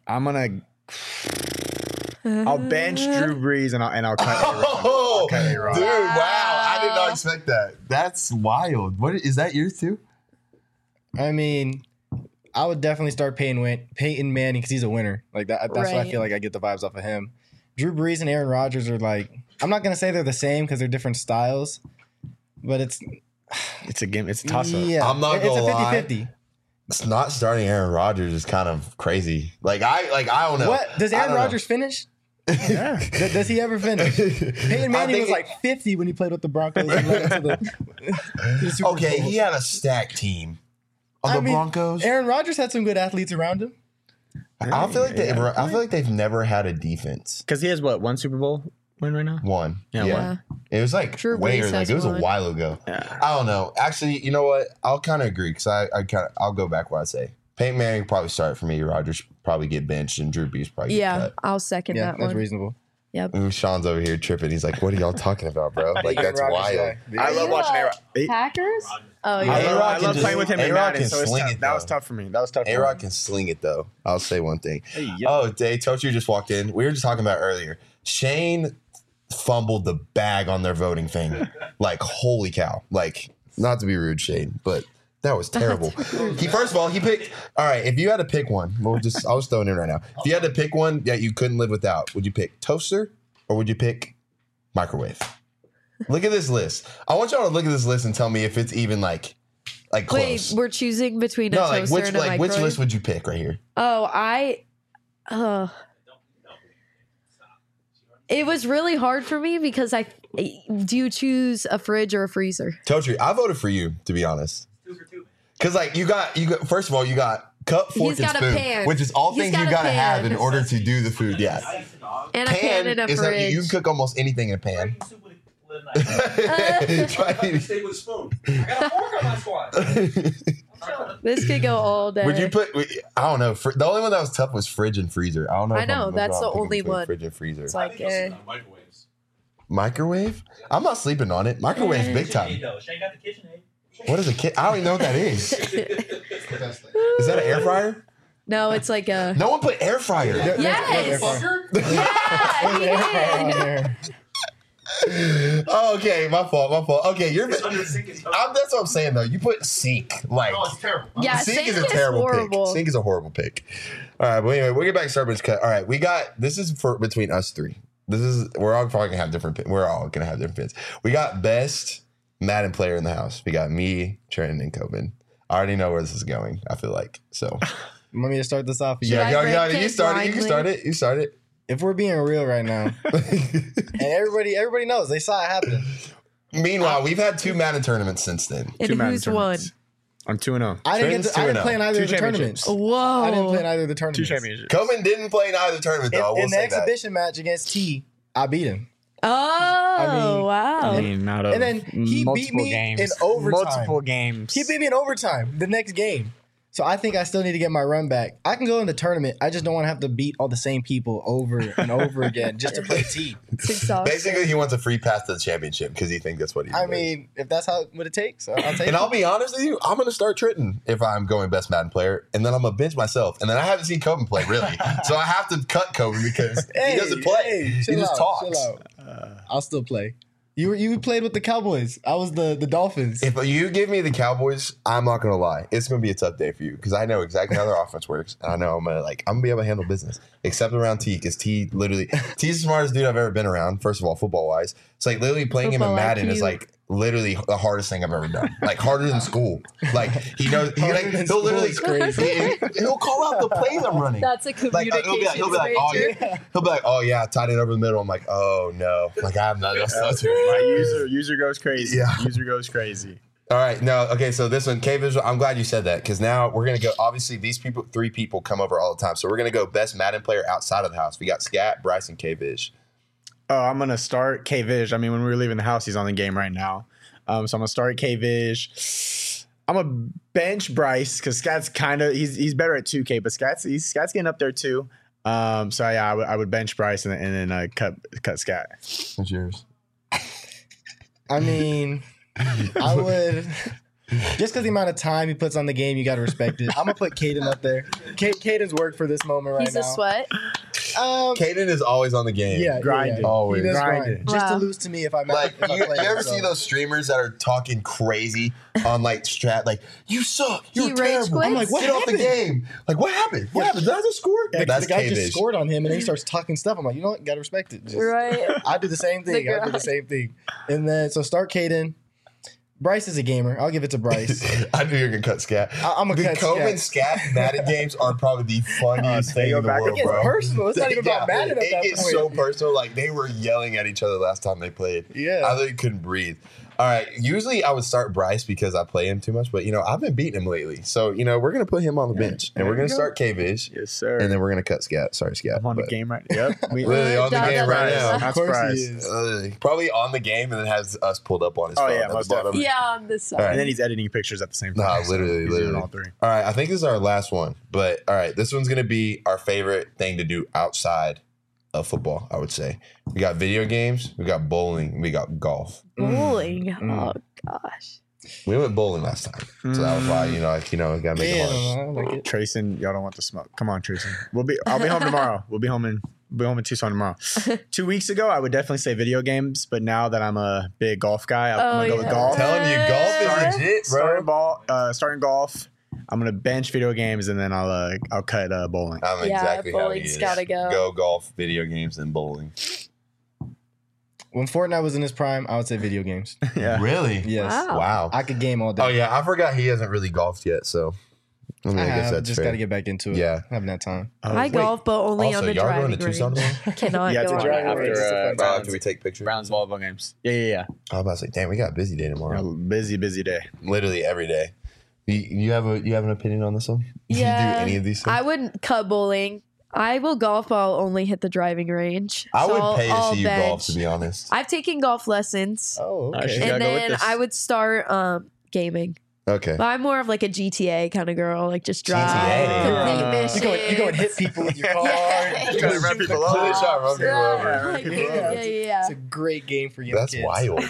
I'll bench Drew Brees and I'll cut Oh, Aaron dude! Rodgers. Wow, I did not expect that. That's wild. What is that? Yours too? I mean, I would definitely start Peyton Manning because he's a winner. Like that. That's why I feel like I get the vibes off of him. Drew Brees and Aaron Rodgers are like. I'm not gonna say they're the same because they're different styles, but it's It's a game. It's a toss up. yeah. I'm not it's gonna a lie. 50-50. It's not starting Aaron Rodgers is kind of crazy. I don't know. What does Aaron Rodgers finish? Yeah. Does he ever finish? Peyton Manning was like 50 when he played with the Broncos. And went into the Super Okay, Bowl. he had a stacked team of the Broncos. Aaron Rodgers had some good athletes around him. I feel like they've never had a defense. Because he has one Super Bowl win right now? One. Yeah. It was like Drew way Brees early. Like, has it was a one. while ago. Yeah. I don't know. Actually, you know what? I'll kind of agree because I'll go back what I say. Peyton Manning probably start for me. Rodgers probably get benched, and Drew Brees probably get cut. I'll second that one. That's reasonable. Yep. And Sean's over here tripping. He's like, "What are y'all talking about, bro? Like that's wild." I love watching A-Rod. Packers? Oh yeah. I love playing with him in Madden. So that was tough for me. A-Rod can sling it though. I'll say one thing. Oh, Dave, Tochu just walked in. We were just talking about earlier. Shane fumbled the bag on their voting thing. Like, holy cow! Like, not to be rude, Shane, but. That was terrible. First of all, he picked. All right, if you had to pick one, I'll just throw it in right now. If you had to pick one that you couldn't live without, would you pick toaster or would you pick microwave? Look at this list. I want y'all to look at this list and tell me if it's even like close. Wait, we're choosing between a toaster and a microwave? Which list would you pick right here? Oh, it was really hard for me because do you choose a fridge or a freezer? Totri, I voted for you, to be honest. Because you got first of all, you got cup, fork, and spoon, which is all things you gotta have in order to do the food. Yeah, and a pan and a fridge. You can cook almost anything in a pan. Try to stay with a spoon. I got a fork on my squad. This could go all day. Would you put? I don't know. The only one that was tough was fridge and freezer. I don't know. I know that's the only one. Fridge and freezer. It's like microwaves. Microwave? I'm not sleeping on it. Microwave's big time. Shane got the KitchenAid. What is a kit? I don't even know what that is. Is that an air fryer? No, it's like a. No one put air fryer. Yes. Oh, okay, my fault. Okay, that's what I'm saying though. You put sink like. Oh, it's terrible. Yeah, sink is a terrible horrible. pick. Sink is a horrible pick. All right, but anyway, we'll get back to Starburst cut. All right, this is for between us three. We're all probably gonna have different. We're all gonna have different pins. We got best Madden player in the house. We got me, Trenton, and Coben. I already know where this is going. I feel like so. You want me to start this off? You start it. You can start it. If we're being real right now, and everybody knows, they saw it happen. Meanwhile, we've had 2 Madden tournaments since then. And who's won? I'm 2-0. I didn't play in either of the tournaments. Whoa! I didn't play in either of the tournaments. 2 championships. Coben didn't play in either tournament though. In the exhibition match against T, I beat him. Oh, wow. And then he beat me in overtime. Multiple games. He beat me in overtime the next game. So I think I still need to get my run back. I can go in the tournament. I just don't want to have to beat all the same people over and over again just to play T. Basically, he wants a free pass to the championship because he thinks that's what he does. I mean, if that's what it takes, I'll take it. And I'll be honest with you, I'm going to start Trenton if I'm going best Madden player. And then I'm going to bench myself. And then I haven't seen Coben play, really. So I have to cut Coben because he doesn't play. He just talks. Chill out. I'll still play. You played with the Cowboys. I was the Dolphins. If you give me the Cowboys, I'm not gonna lie. It's gonna be a tough day for you because I know exactly how their offense works, and I know I'm gonna be able to handle business. Except around T, because T's the smartest dude I've ever been around. First of all, football wise, it's like literally playing him in Madden is like literally the hardest thing I've ever done. Like harder than school. Like he knows. He'll literally he'll call out the plays I'm running. That's a communication he'll be like, oh yeah, tied it over the middle. I'm like, oh no, like I have nothing else to do. My user goes crazy. Yeah. User goes crazy. All right, no, okay. So this one, K Visual. I'm glad you said that because now we're gonna go. Obviously, these 3 people come over all the time, so we're gonna go best Madden player outside of the house. We got Scat, Bryce, and K Viz. Oh, I'm going to start K-Vish. I mean, when we were leaving the house, he's on the game right now. So I'm going to start K-Vish. I'm going to bench Bryce because Scat's kind of – he's better at 2K, but Scat's getting up there too. So, yeah, I would bench Bryce and then cut Scat. What's yours? I mean, I would – just because the amount of time he puts on the game, you got to respect it. I'm going to put Caden up there. Caden's worked for this moment right now. He's a sweat. Caden is always on the game. Yeah, grinding. Always. He does grinding. Just to lose to me if I'm like, if I you play ever see those streamers that are talking crazy on like strat? Like, you suck. You're terrible. I'm like, what happened? Off the game. Like, what happened? What happened? Did I just score? Yeah, that's the guy K-Vish. just scored on him and then he starts talking stuff. I'm like, you know what? You got to respect it. Right. I do the same thing. And then, so start Caden. Bryce is a gamer. I'll give it to Bryce. I knew you were going to cut Scat. I'm going to cut Scat. The Coben Scat Madden games are probably the funniest thing in the world, bro. It gets personal. It's not even about Madden at that point. It gets so personal. Like, they were yelling at each other last time they played. Yeah. I literally couldn't breathe. All right. Usually I would start Bryce because I play him too much, but I've been beating him lately. So we're gonna put him on the bench, and we're gonna start K-Vish. Yes, sir. And then we're gonna cut Scat. Sorry, Scat. I'm on the game right. Yep. Literally on the game right now. Of course he is. Probably on the game, and then has us pulled up on his phone at the bottom. Yeah, on this side. Right. And then he's editing pictures at the same time. Nah, literally. Doing all three. All right, I think this is our last one. But all right, this one's gonna be our favorite thing to do outside of football, I would say. We got video games, we got bowling, we got golf. Bowling. Oh gosh. We went bowling last time, so that was why we gotta make it hard. I like it. Trayson, y'all don't want the smoke. Come on, Trayson. I'll be home tomorrow. We'll be home in Tucson tomorrow. 2 weeks ago, I would definitely say video games, but now that I'm a big golf guy, I'm gonna go with golf. I'm telling you, golf is legit, bro. Starting golf. I'm gonna bench video games, and then I'll cut bowling. I'm exactly how he bowling's is. gotta go. Go golf, video games, and bowling. When Fortnite was in his prime, I would say video games. Yeah. Really? Yes. Wow. I could game all day. Oh yeah, I forgot he hasn't really golfed yet, so I guess that's just fair. got to get back into it. Yeah. Haven't that time. I golf, but only Also, on the y'all going driving to range. Tucson tomorrow? Cannot Yeah, go to on drive that after, range. Browns- Can we take pictures? Browns volleyball games. Yeah. I was about to say, damn, we got a busy day tomorrow. Busy day. Literally every day. You have an opinion on this one? Yeah. You do any of these things? I wouldn't cut bowling. I will golf, but I'll only hit the driving range. I So would pay to I'll see you bench. golf, to be honest. I've taken golf lessons. Oh, She's okay. gotta And go with then this. I would start gaming. Okay. But I'm more of like a GTA kind of girl, like just drive, GTA. complete missions. You go and hit people with your car. Yeah. You gotta run people over. Really shot, run people Yeah, over. like, Yeah. yeah. It's a great game for young That's kids. wild.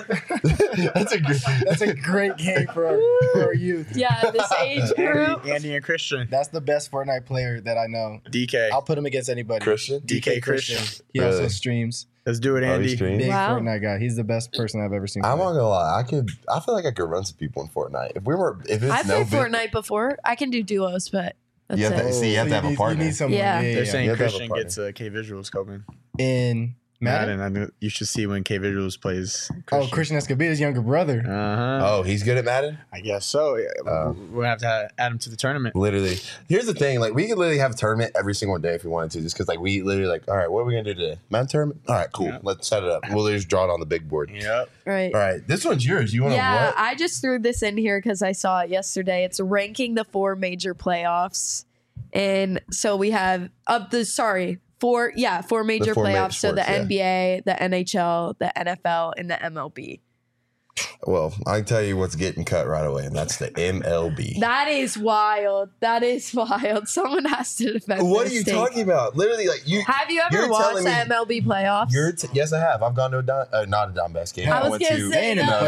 That's a great game for our youth. Yeah, this age group. Andy and Christian. That's the best Fortnite player that I know. DK. I'll put him against anybody. Christian. DK Christian. He also Really? streams. Let's do it, Oh, he Andy. streams? Big Wow. Fortnite guy. He's the best person I've ever seen. I'm play. not gonna lie. I feel like I could run some people in Fortnite. If it's I've no played big, Fortnite before. I can do duos, but that's You have it. to- see, you have to have a partner. You need someone. Yeah. They're You saying have to have a Christian partner. gets K visuals, Coben. In Madden. I knew you should see when K visuals plays. Oh, Christian Escobedo's younger brother. Uh-huh. Oh, he's good at Madden? I guess so. Yeah. We'll have to add him to the tournament. Literally. Here's the thing. Like, we could literally have a tournament every single day if we wanted to. Just because, we literally, all right, what are we going to do today? Madden tournament? All right, cool. Yeah. Let's set it up. We'll just draw it on the big board. Yep. Right. All right. This one's yours. You want to Yeah, what? I just threw this in here because I saw it yesterday. It's ranking the 4 major playoffs. And so we have four major four playoffs. major So the sports, NBA, the NHL, the NFL, and the MLB. Well, I can tell you what's getting cut right away, and that's the MLB. That is wild. That is wild. Someone has to defend What are this you state. talking about? Literally, you. Have you ever you're watched telling the me- MLB playoffs? Yes, I have. I've gone to not a Donbass game. I was went going to say, and in no, the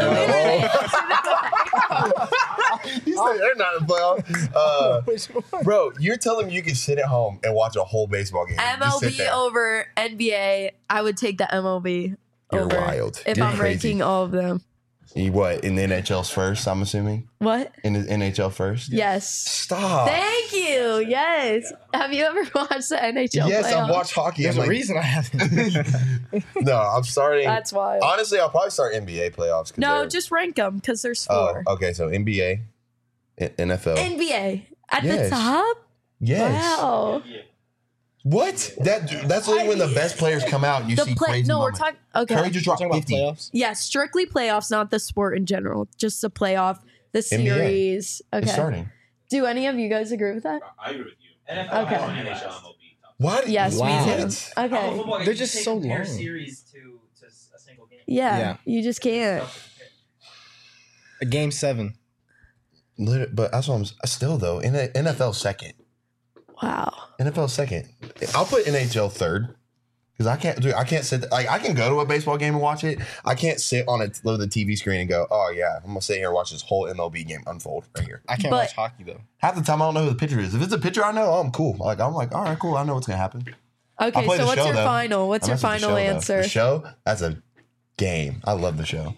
You said they're not in the playoffs. Bro, you're telling me you can sit at home and watch a whole baseball game. Just sit MLB there. over NBA. I would take the MLB You're over wild. if You're I'm crazy. ranking all of them. You what, in the NHL's first, I'm assuming? What? In the NHL first? Yes. Stop. Thank you. Yes. Have you ever watched the NHL Yes, playoffs? I've watched hockey. There's I'm a reason I haven't. No, I'm starting. That's wild. Honestly, I'll probably start NBA playoffs. 'cause No, they're- just rank them because there's 4. okay, so NBA, NFL. NBA at Yes. the top. Yes. Wow. What? That's only when the best players come out and you see crazy No, we're moments. talking. Okay. Curry just dropped Talking about 50. playoffs. Yeah, strictly playoffs, not the sport in general. Just the playoff, the NBA. series. It's Okay. starting. Do any of you guys agree with that? I agree with you. NFL, Okay. NHL, MLB. What? Yes, Wow. me too. What? Okay. They're just so long. Series to a single game. Yeah, Yeah. you just can't. A game 7. But that's what I'm still though. In the NFL second. Wow. NFL second. I'll put NHL third. Because I can't sit I can go to a baseball game and watch it. I can't sit on the TV screen and go, oh yeah, I'm gonna sit here and watch this whole MLB game unfold right here. I can't But- watch hockey though. Half the time I don't know who the pitcher is. If it's a pitcher I know, I'm cool. I'm like, all right, cool. I know what's gonna happen. Okay, play so the what's show, your though. final? What's I your mess with the final show, though. answer? The show, that's a game. I love the show.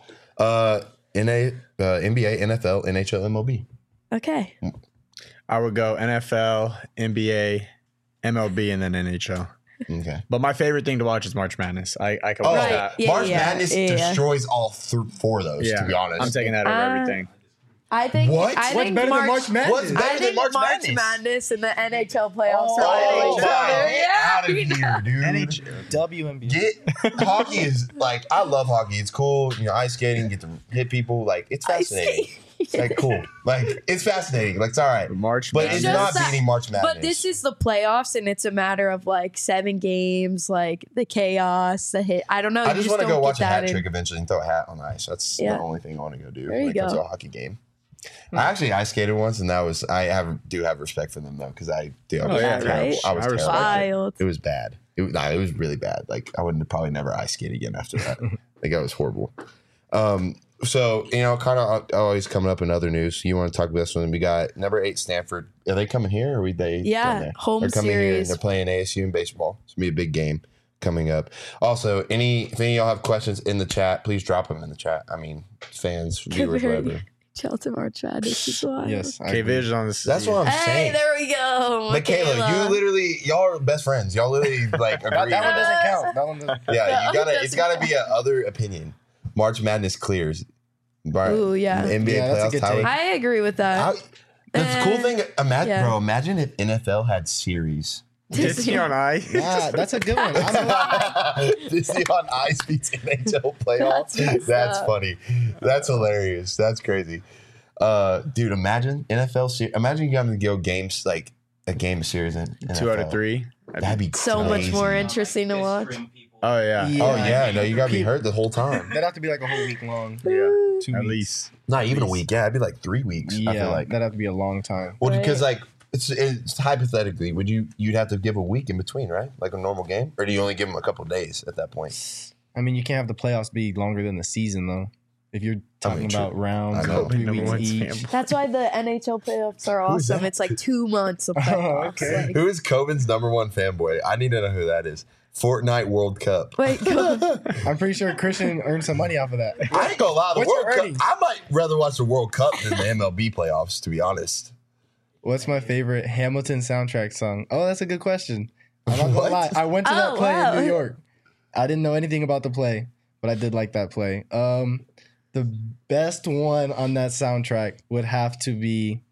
NBA, NFL, NHL, MLB. Okay. I would go NFL, NBA, MLB, and then NHL. Okay. But my favorite thing to watch is March Madness. I can Oh, watch Right. that. Yeah, March yeah, Madness yeah. destroys all 4 of those, Yeah, to be honest. I'm taking that over everything. I think What? I What's think better than March March Madness? What's better I than think March March Madness? Madness and the NHL playoffs are Oh, each wow. other. Get Yeah. out of here, dude. WNBA. Hockey is like, I love hockey. It's cool. You know, ice skating, get to hit people. Like, it's fascinating. It's like cool. Like, it's fascinating. Like, it's all right. March But Madness. it's just not that- beating March Madness. But this is the playoffs, and it's a matter of like 7 games, like the chaos, the hit. I don't know. I you just want to don't go get watch a hat that in- trick eventually and throw a hat on the ice. That's Yeah. the only thing I want to go do There when you it comes go. to a hockey game. I actually ice skated once, and that was do have respect for them though, because I do. I was yeah, terrible. right? I was I respect terrible. Wild. It was bad. It was really bad. Like I would probably never ice skate again after that. Like that was horrible. So you know, kind of always coming up in other news. You want to talk about this one? We got number 8 Stanford. Are they coming here, or are they? Yeah, down there? home They're coming here. And series. they're playing ASU in baseball. It's gonna be a big game coming up. Also, if any of y'all have questions in the chat, please drop them in the chat. I mean, fans, viewers, whatever. Chelsea March Madness is wild. Yes. I Okay, agree. Vision on this. That's what I'm Hey, saying. there we go. Michaela, you literally, y'all are best friends. Y'all literally like That, agree. that one doesn't count. That one doesn't count. Yeah, you gotta. That's It's gotta be a other opinion. March Madness clears. Right. Ooh, yeah. NBA Yeah, that's a playoffs. good Tyler. take. I agree with that. The cool thing, imagine, yeah. bro. Imagine if NFL had series. Disney on Ice. Nah, that's a good one. Disney on Ice beats NHL playoffs. That's messed That's up. funny. That's hilarious. That's crazy. Dude, imagine NFL series. Imagine you got to go games like a game series in NFL. 2 out of 3. That'd be So much crazy. more interesting to watch. Oh yeah. Oh yeah, no, you gotta be hurt the whole time. That'd have to be like a whole week long. Yeah. 2 At weeks. least. Not even a week. Yeah, it'd be like 3 weeks. I Yeah, feel like. that'd have to be a long time. Well, Right. because like it's hypothetically, you'd have to give a week in between, right? Like a normal game, or do you only give them a couple days at that point? I mean, you can't have the playoffs be longer than the season, though. If you're talking true. about rounds, I know. 3 Number weeks one each. fan. That's why the NHL playoffs are Who's awesome. that? It's like 2 months of playoffs. okay. Like, Who is Coben's number 1 fanboy? I need to know who that is. Fortnite World Cup. wait, go. I'm pretty sure Christian earned some money off of that. I ain't gonna lie, the What's World your Cup. earnings? I might rather watch the World Cup than the MLB playoffs, to be honest. What's my favorite Hamilton soundtrack song? Oh, that's a good question. I'm not What? gonna lie. I went to that Oh, play wow. in New York. I didn't know anything about the play, but I did like that play. The best one on that soundtrack would have to be.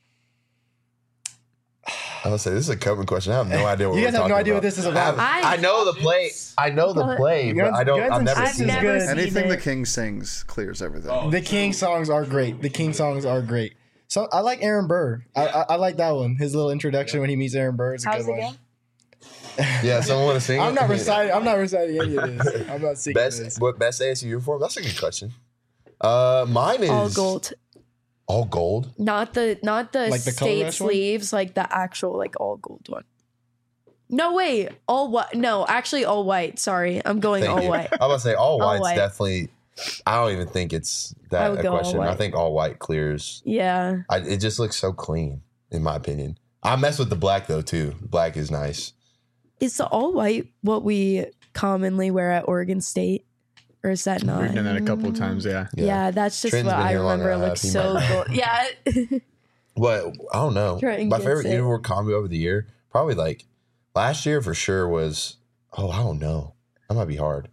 I'm gonna say this is a Coben question. I have no idea what You we're guys have no talking idea what about. this is about. I know the play. I know the play, but I don't. I've never I've seen never it. seen Anything it. the king sings clears everything. Oh. The King songs are great. The King songs are great. So I like Aaron Burr. I like that one. His little introduction when he meets Aaron Burr is a How's good it one. go? Yeah, someone want to sing? I'm it? not reciting. I'm not reciting any of this. I'm not singing this. Best ASU uniform? That's a good question. Mine is All gold. All gold. Not the Like the color state rush one? sleeves, like the actual like all gold one. No, wait, all white. No, actually all white. Sorry, I'm going Thank all you. white. I'm gonna say all white's white. definitely. I don't even think it's I that would a go all question. I white. think all white clears. Yeah, It just looks so clean, in my opinion. I mess with the black though too. Black is nice. is the all white what we commonly wear at Oregon State, or is that not? We've done that a couple of times. Yeah. Yeah, that's just Trent's what been I here long remember. It enough. looks He so might know. cool. Yeah. What I don't know. Trenton My gets favorite it. uniform combo over the year, probably like last year for sure was. Oh, I don't know. That might be hard.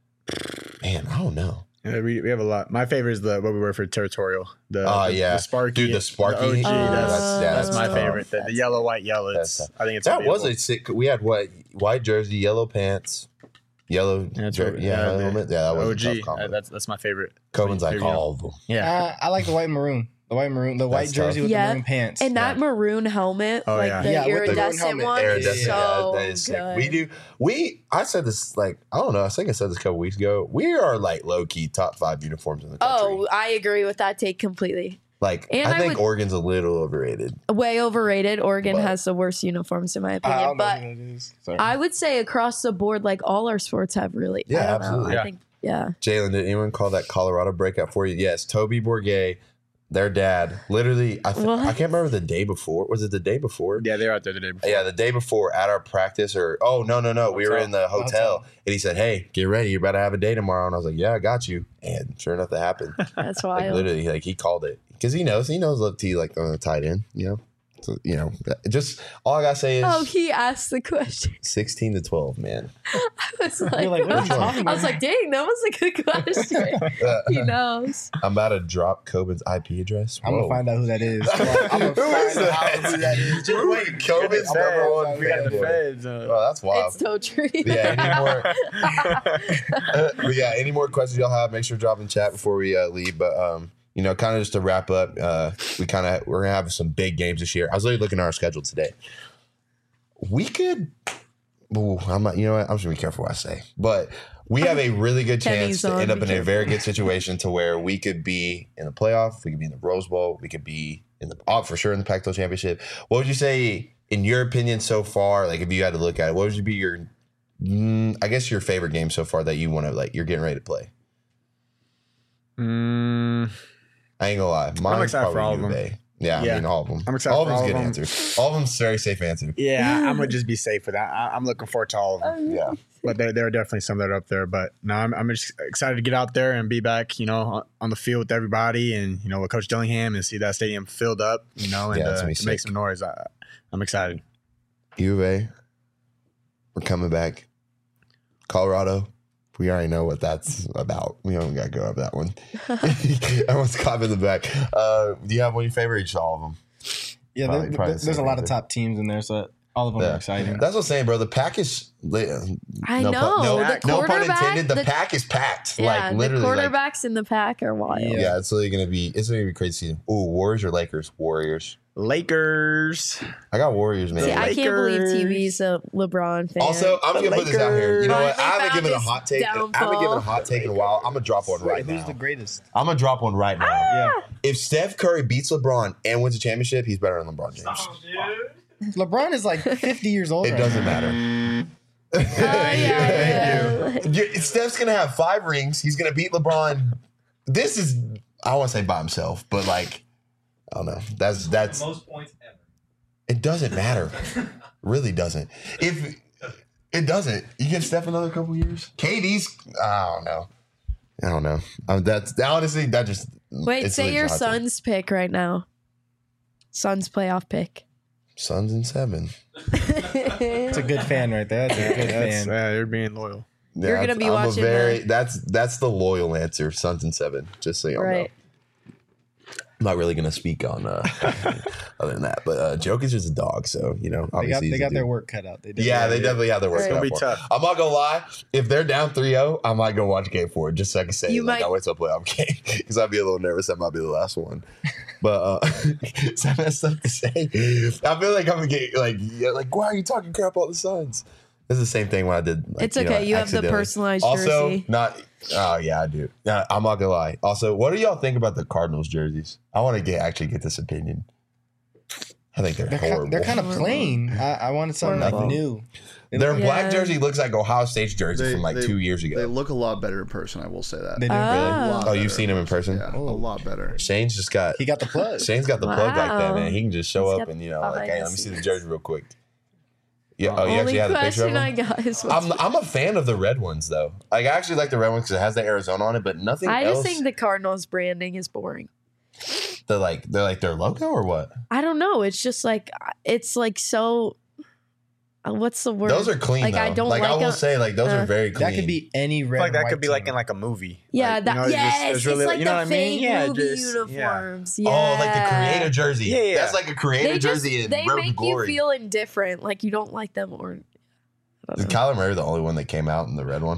Man, I don't know. Yeah, we have a lot. My favorite is what we wear for territorial. Yeah. the Sparky. Dude, the Sparky. The OG. that's that's my tough. favorite. The yellow, white, yellow. That's It's, tough. I think it's That was unbeatable. a sick. We had what? White jersey, yellow pants, yellow. That's jer- what- yeah, the helmet. Yeah, that was a tough OG. combo. That's my favorite. Coben's like favorite all of them. Yeah. I like the white and maroon. The white maroon. The white That's jersey tough. with Yeah, the maroon pants. And that maroon helmet, Oh, like yeah. the Yeah, with the maroon iridescent helmet. one, Iridescent, is so that is sick. good. I said this like, I don't know. I think I said this a couple weeks ago. We are like low key top 5 uniforms in the country. Oh, I agree with that take completely. like and I I think would- Oregon's a little overrated. Way overrated. Oregon But- has the worst uniforms in my I opinion. don't know But who that is. Sorry. I would say across the board, like all our sports have really. Yeah, I don't absolutely. Know. Yeah. I think, yeah. Jalen, did anyone call that Colorado breakout for you? Yes, Toby Bourget, their dad, literally. I What? can't remember the day before. Was it the day before? Yeah, they were out there the day before. Yeah, the day before at our practice, or no, we were in the hotel, and he said, "Hey, get ready, you're about to have a day tomorrow." And I was like, "Yeah, I got you." And sure enough, that happened. That's Like wild. literally, like he called it because he knows Love T like on the tight end, you know. So, you know, just all I gotta say is Oh, he asked the question. 16 to 12, man. was like, You're like, what are you talking I was about? like, dang, that was a good question. He knows. I'm about to drop Coben's IP address. I'm gonna find out who that is. I'm gonna Who is find out that? who that is. Just wait, Coben's number one We got the fanboy. feds. Oh, that's wild. It's so true. Yeah, but yeah, any more questions y'all have, make sure to drop in chat before we leave. But kind of just to wrap up, we're gonna have some big games this year. I was literally looking at our schedule today. We could. Ooh, I'm not. You know what? I'm just gonna be careful what I say. But we have a really good chance Kenny's to on, end up be in a careful. very good situation to where we could be in the playoff. We could be in the Rose Bowl. We could be in the for sure in the Pac-12 championship. What would you say, in your opinion, so far? Like, if you had to look at it, what would be your, I guess, your favorite game so far that you want to you're getting ready to play? I ain't gonna lie. Mine's excited for probably all of U them. Bay. Yeah, I Yeah. mean all of them. I'm excited all for of them's all good of them. answers. All of them's very safe answer. Yeah, I'm gonna just be safe with that. I'm looking forward to all of them. Yeah. But there are definitely some that are up there. But no, I'm just excited to get out there and be back, on the field with everybody and, with Coach Dillingham and see that stadium filled up, and Yeah, that's gonna be to make sick. some noise. I'm excited. U of A, we're coming back. Colorado, we already know what that's about. We don't got to go over that one. Everyone's caught in the back. Do you have one of your favorites? All of them. Yeah, Probably the there's a same lot of answer. top teams in there, so all of them are exciting. That's what I'm saying, bro. The pack is. I no know. Pun, no, The no pun quarterback- intended. The the- pack is packed. Yeah, Like literally. the quarterbacks in the pack are wild. Yeah, it's really gonna be. It's gonna be crazy season. Ooh, Warriors or Lakers? Warriors. Lakers. I got Warriors, man. See, I can't believe Lakers. TV's a LeBron fan. Also, I'm just gonna put this out here. You know Lakers. what? I haven't They given a found hot his take. I haven't downfall. given a hot take in a while. I'm gonna drop one right Who's now. the greatest? I'm gonna drop one right now. Yeah, If Steph Curry beats LeBron and wins a championship, he's better than LeBron James. Oh, dude. LeBron is like 50 years old. It right doesn't now. matter. yeah. Steph's gonna have 5 rings. He's gonna beat LeBron. This is, I don't want to say by himself, but like, I don't know. That's Most points ever. it doesn't matter. Really doesn't. If it doesn't, you give Steph another couple years. KD's, I don't know. That's honestly that just Wait, it's say really your just a hot take. Suns pick right now. Suns playoff pick. Suns in 7. It's a good fan right there. That's a good fan. You're being loyal. You're gonna be I'm watching that's the loyal answer. Suns in 7. Just so y'all Right. know. I'm not really gonna speak on other than that, but Jokic is a dog, so obviously They he's got a dude. their work cut out. They Yeah, they definitely have their work. Right. cut out It's for gonna be them. tough. I'm not gonna lie. If they're down 3-0, I might go watch Game 4 just so I can say You might- I went to a playoff game because I'd be a little nervous. That might be the last one. But so I messed up to say. I feel like I'm gonna get like why are you talking crap about the Suns? It's the same thing when I did. Like, It's okay. You have the accidentally. personalized Also, jersey. not. Oh yeah, I do. I'm not gonna lie. Also, what do y'all think about the Cardinals jerseys? I want to actually get this opinion. I think they're horrible. They're kind of plain. I wanted something like Horrible. new. Their black Yeah. jersey looks like Ohio State's jersey from like 2 years They ago. look a lot better in person. I will say that. They do. A Ah. lot Oh, you've better seen him in person? Yeah, a lot better. Shane's just got. He got the plug. Shane's got the plug like that, Wow. man. He can just show He's up got and the like, behind hey, the let me see the scenes. jersey real quick. Yeah. Oh, you Only actually have the picture of question I them. got is what's I'm a fan of the red ones though. Like I actually like the red ones because it has the Arizona on it, but nothing I else. just think the Cardinals branding is boring. they're like their logo or what? I don't know. It's just like so. What's the word? Those are clean. Like though. I don't like. I like will a- say like those are very clean. That could be any I red. feel like that and could be white like team. in like a movie. Yeah, Like, that it's just- yes, it's really, it's like you know the what I mean? fake Yeah, movie just- yeah. uniforms. Yeah. Oh, like the creator jersey. Yeah, yeah. That's like a creator They just jersey in they Road to make Glory. you feel indifferent, like you don't like them or. I Is don't know. Kyler Murray the only one that came out in the red one?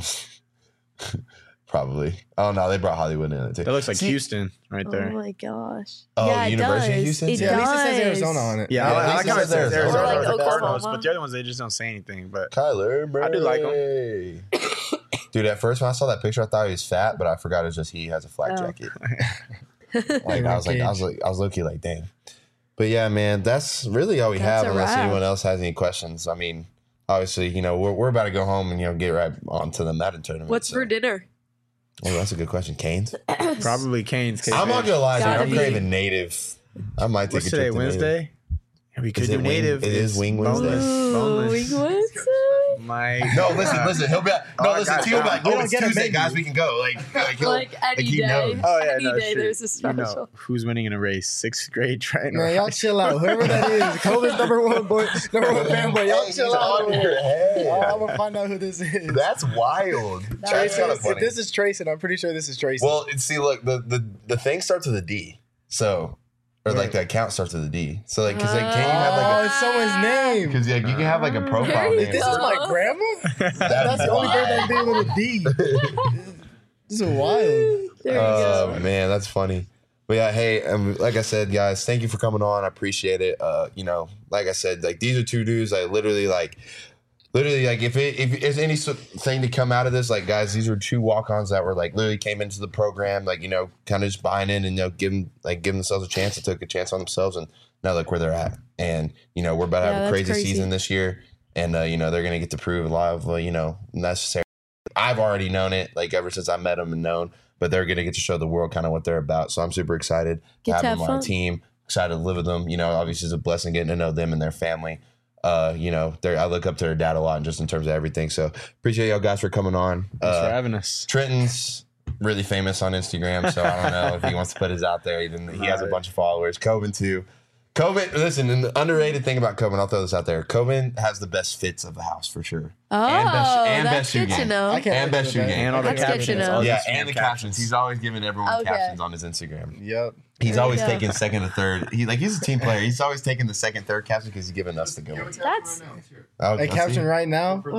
Probably. Oh no, they brought Hollywood in it too. That looks like See- Houston right Oh there. my gosh! Oh, yeah, it University of does. Houston? It Yeah, At does. least it says Arizona on it. Yeah, Yeah, I at like least how it it says says Arizona. Arizona Or like or the Cardinals, Oklahoma. but the other ones they just don't say anything. But Kyler Murray. I do like Dude, at first when I saw that picture, I thought he was fat, but I forgot it was just he has a flak Oh. jacket. Like I was low-key like, dang. But yeah, man, that's really all we That's have a unless wrap. anyone else has any questions. I mean, obviously, we're about to go home and get right on to the Madden tournament. What's so. for dinner? Oh, that's a good question. Canes? probably Canes. I'm not gonna lie, dude, Gotta I'm be. craving native. I might take What's a today? trip to Native. Wednesday. We could Is do it wing- native. it is It's wing Wednesday? boneless. Ooh, Boneless. Wednesday. my. No, listen. He'll be like, Oh, no, I listen. got T you. will be like, We oh, don't it's get a Tuesday, menu. guys. We can go. he'll, Like any he day. knows. Oh yeah, Any no, day shit. there's a special. You know who's winning in a race? 6th grade trying to. Man, y'all chill out. Whoever that is, COVID's number one fanboy. Y'all chill He's out. on your head. I'm gonna find out who this is. That's wild. That's Tracy, kind of if funny. this is Tracy, I'm pretty sure this is Tracy. Well, see, look, the thing starts with a D. So, or like the account starts with a D. So, like, because like, can you have oh, like it's someone's name. because like, you can have like a profile There you name. This is my grandma. That's the only bird that name with a D. This is wild. There you go. Man, that's funny. But yeah, hey, like I said, guys, thank you for coming on. I appreciate it. You know, like I said, like these are two dudes I literally like if there's any thing to come out of this, like guys, these are two walk-ons that were like literally came into the program, like, you know, kind of just buying in and, you know, giving themselves a chance and took a chance on themselves, and now look where they're at. And, you know, we're about to have a crazy season this year, and you know, they're gonna get to prove a lot of you know, necessary. I've already known it, like ever since I met them and known, but they're gonna get to show the world kind of what they're about. So I'm super excited to have them on our team. Excited to live with them. You know, obviously it's a blessing getting to know them and their family. You know, I look up to their dad a lot, just in terms of everything. So appreciate y'all guys for coming on. Thanks for having us. Trenton's really famous on Instagram, so I don't know if he wants to put his out there. He has a bunch of followers. Coben too. Coben, listen, and the underrated thing about Coben, I'll throw this out there. Coben has the best fits of the house for sure. Oh, and that's best shoe good to game. know. And best shoe game. And all the That's good to captions. know. all the Yeah, Instagram and the captions. He's always giving everyone Okay. captions on his Instagram. Yep. He's There always you go. taking second or third. He's a team player. He's always taking the second, third caption because he's giving us the good ones. That's Oh, A caption right now. whoa.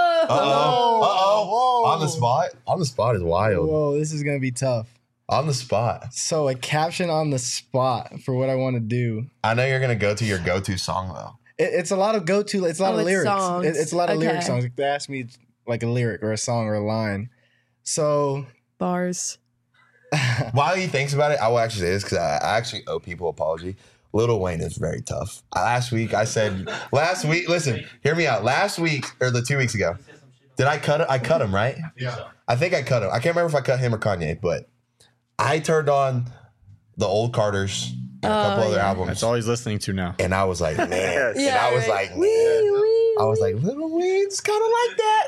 Uh-oh. Whoa. On the spot? On the spot is wild. Whoa, this is gonna be tough. On the spot. So a caption on the spot for what I want to do. I know you're going to go to your go-to song, though. It's a lot of go-to. It's a lot Oh, of it's lyrics. songs. It's a lot of lyric Okay. songs. They ask me like a lyric or a song or a line. So Bars. While he thinks about it, I will actually say this because I actually owe people an apology. Lil Wayne is very tough. Last week, listen, hear me out. Last week, or 2 weeks ago, did I cut it? I cut him, right? Yeah. I think I cut him. I can't remember if I cut him or Kanye, but I turned on the old Carters and a couple other albums. That's all he's listening to now. And I was like, man. And Yeah, I was right. like, man. I was like, Lil Wayne's kind of like that.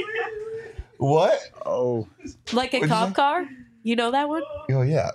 What? Oh, Like a What'd you cop say? car? You know that one? Oh yeah.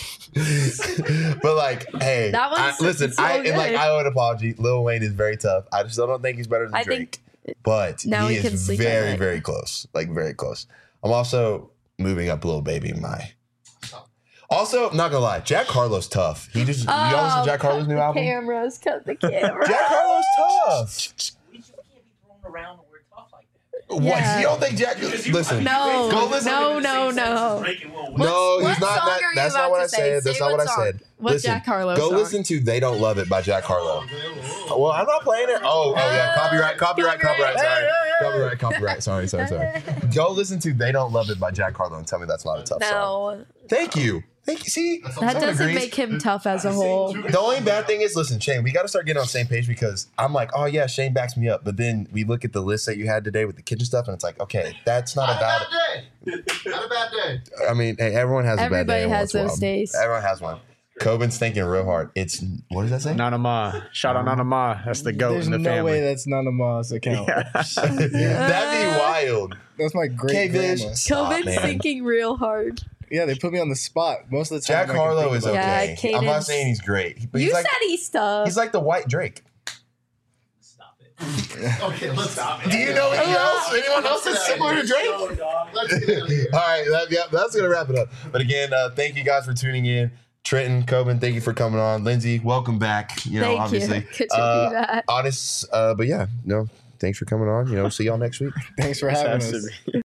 But like, hey, That one's listen, so I good. owe an apology. Lil Wayne is very tough. I still don't think he's better than I Drake. think But now he we can is sleep at very, night. very close. Like very close. I'm also moving up Lil Baby in my. Also, I'm not gonna lie, Jack Harlow's tough. Y'all listen to Jack Harlow's new album? Cameras, cut the camera. Jack Harlow's tough. We just can't be thrown around the word tough like that. What? Yeah. You don't think Jack? Listen. No, Go listen. no. Drake and Lil Wayne. No, What he's not. song are you That's not about what to I say? said. That's Say not what what I song. said. What Listen, Jack Harlow Go song? listen to "They Don't Love It" by Jack Harlow. Well, I'm not playing it. Oh yeah, copyright. Sorry, copyright. Sorry. Go listen to "They Don't Love It" by Jack Harlow and tell me that's not a tough song. No, Thank you. See, that someone doesn't agrees. make him tough as a whole. The only bad thing is, listen, Shane, we got to start getting on the same page because I'm like, oh yeah, Shane backs me up. But then we look at the list that you had today with the kitchen stuff, and it's like, okay, that's not a bad day. Not a bad day. I mean, hey, everyone has a bad day. Everybody every has once in a those while. days. Everyone has one. Coben's thinking real hard. It's what does that say? Nana Ma. Shout out Nana Ma. That's the goat there's in the no family. way that's Nana Ma's account. That'd be wild. That's my great Vish. grandma. Stop, Covid's man. thinking real hard. Yeah, they put me on the spot most of the time. Jack Harlow is Yeah, okay. I'm not Cadence. saying he's great, but You he's like said he's tough. he's like the white Drake. Stop it. Okay, let's stop Do you know anyone else? Anyone else that's similar to Drake? Go, dog. Let's get out of here. All right, that's gonna wrap it up. But again, thank you guys for tuning in. Trenton, Coben, thank you for coming on. Lindsay, welcome back. You know, Thank obviously, you. Good to be back. honest, but yeah, no, thanks for coming on. You know, see y'all next week. Thanks for having Has to us. be.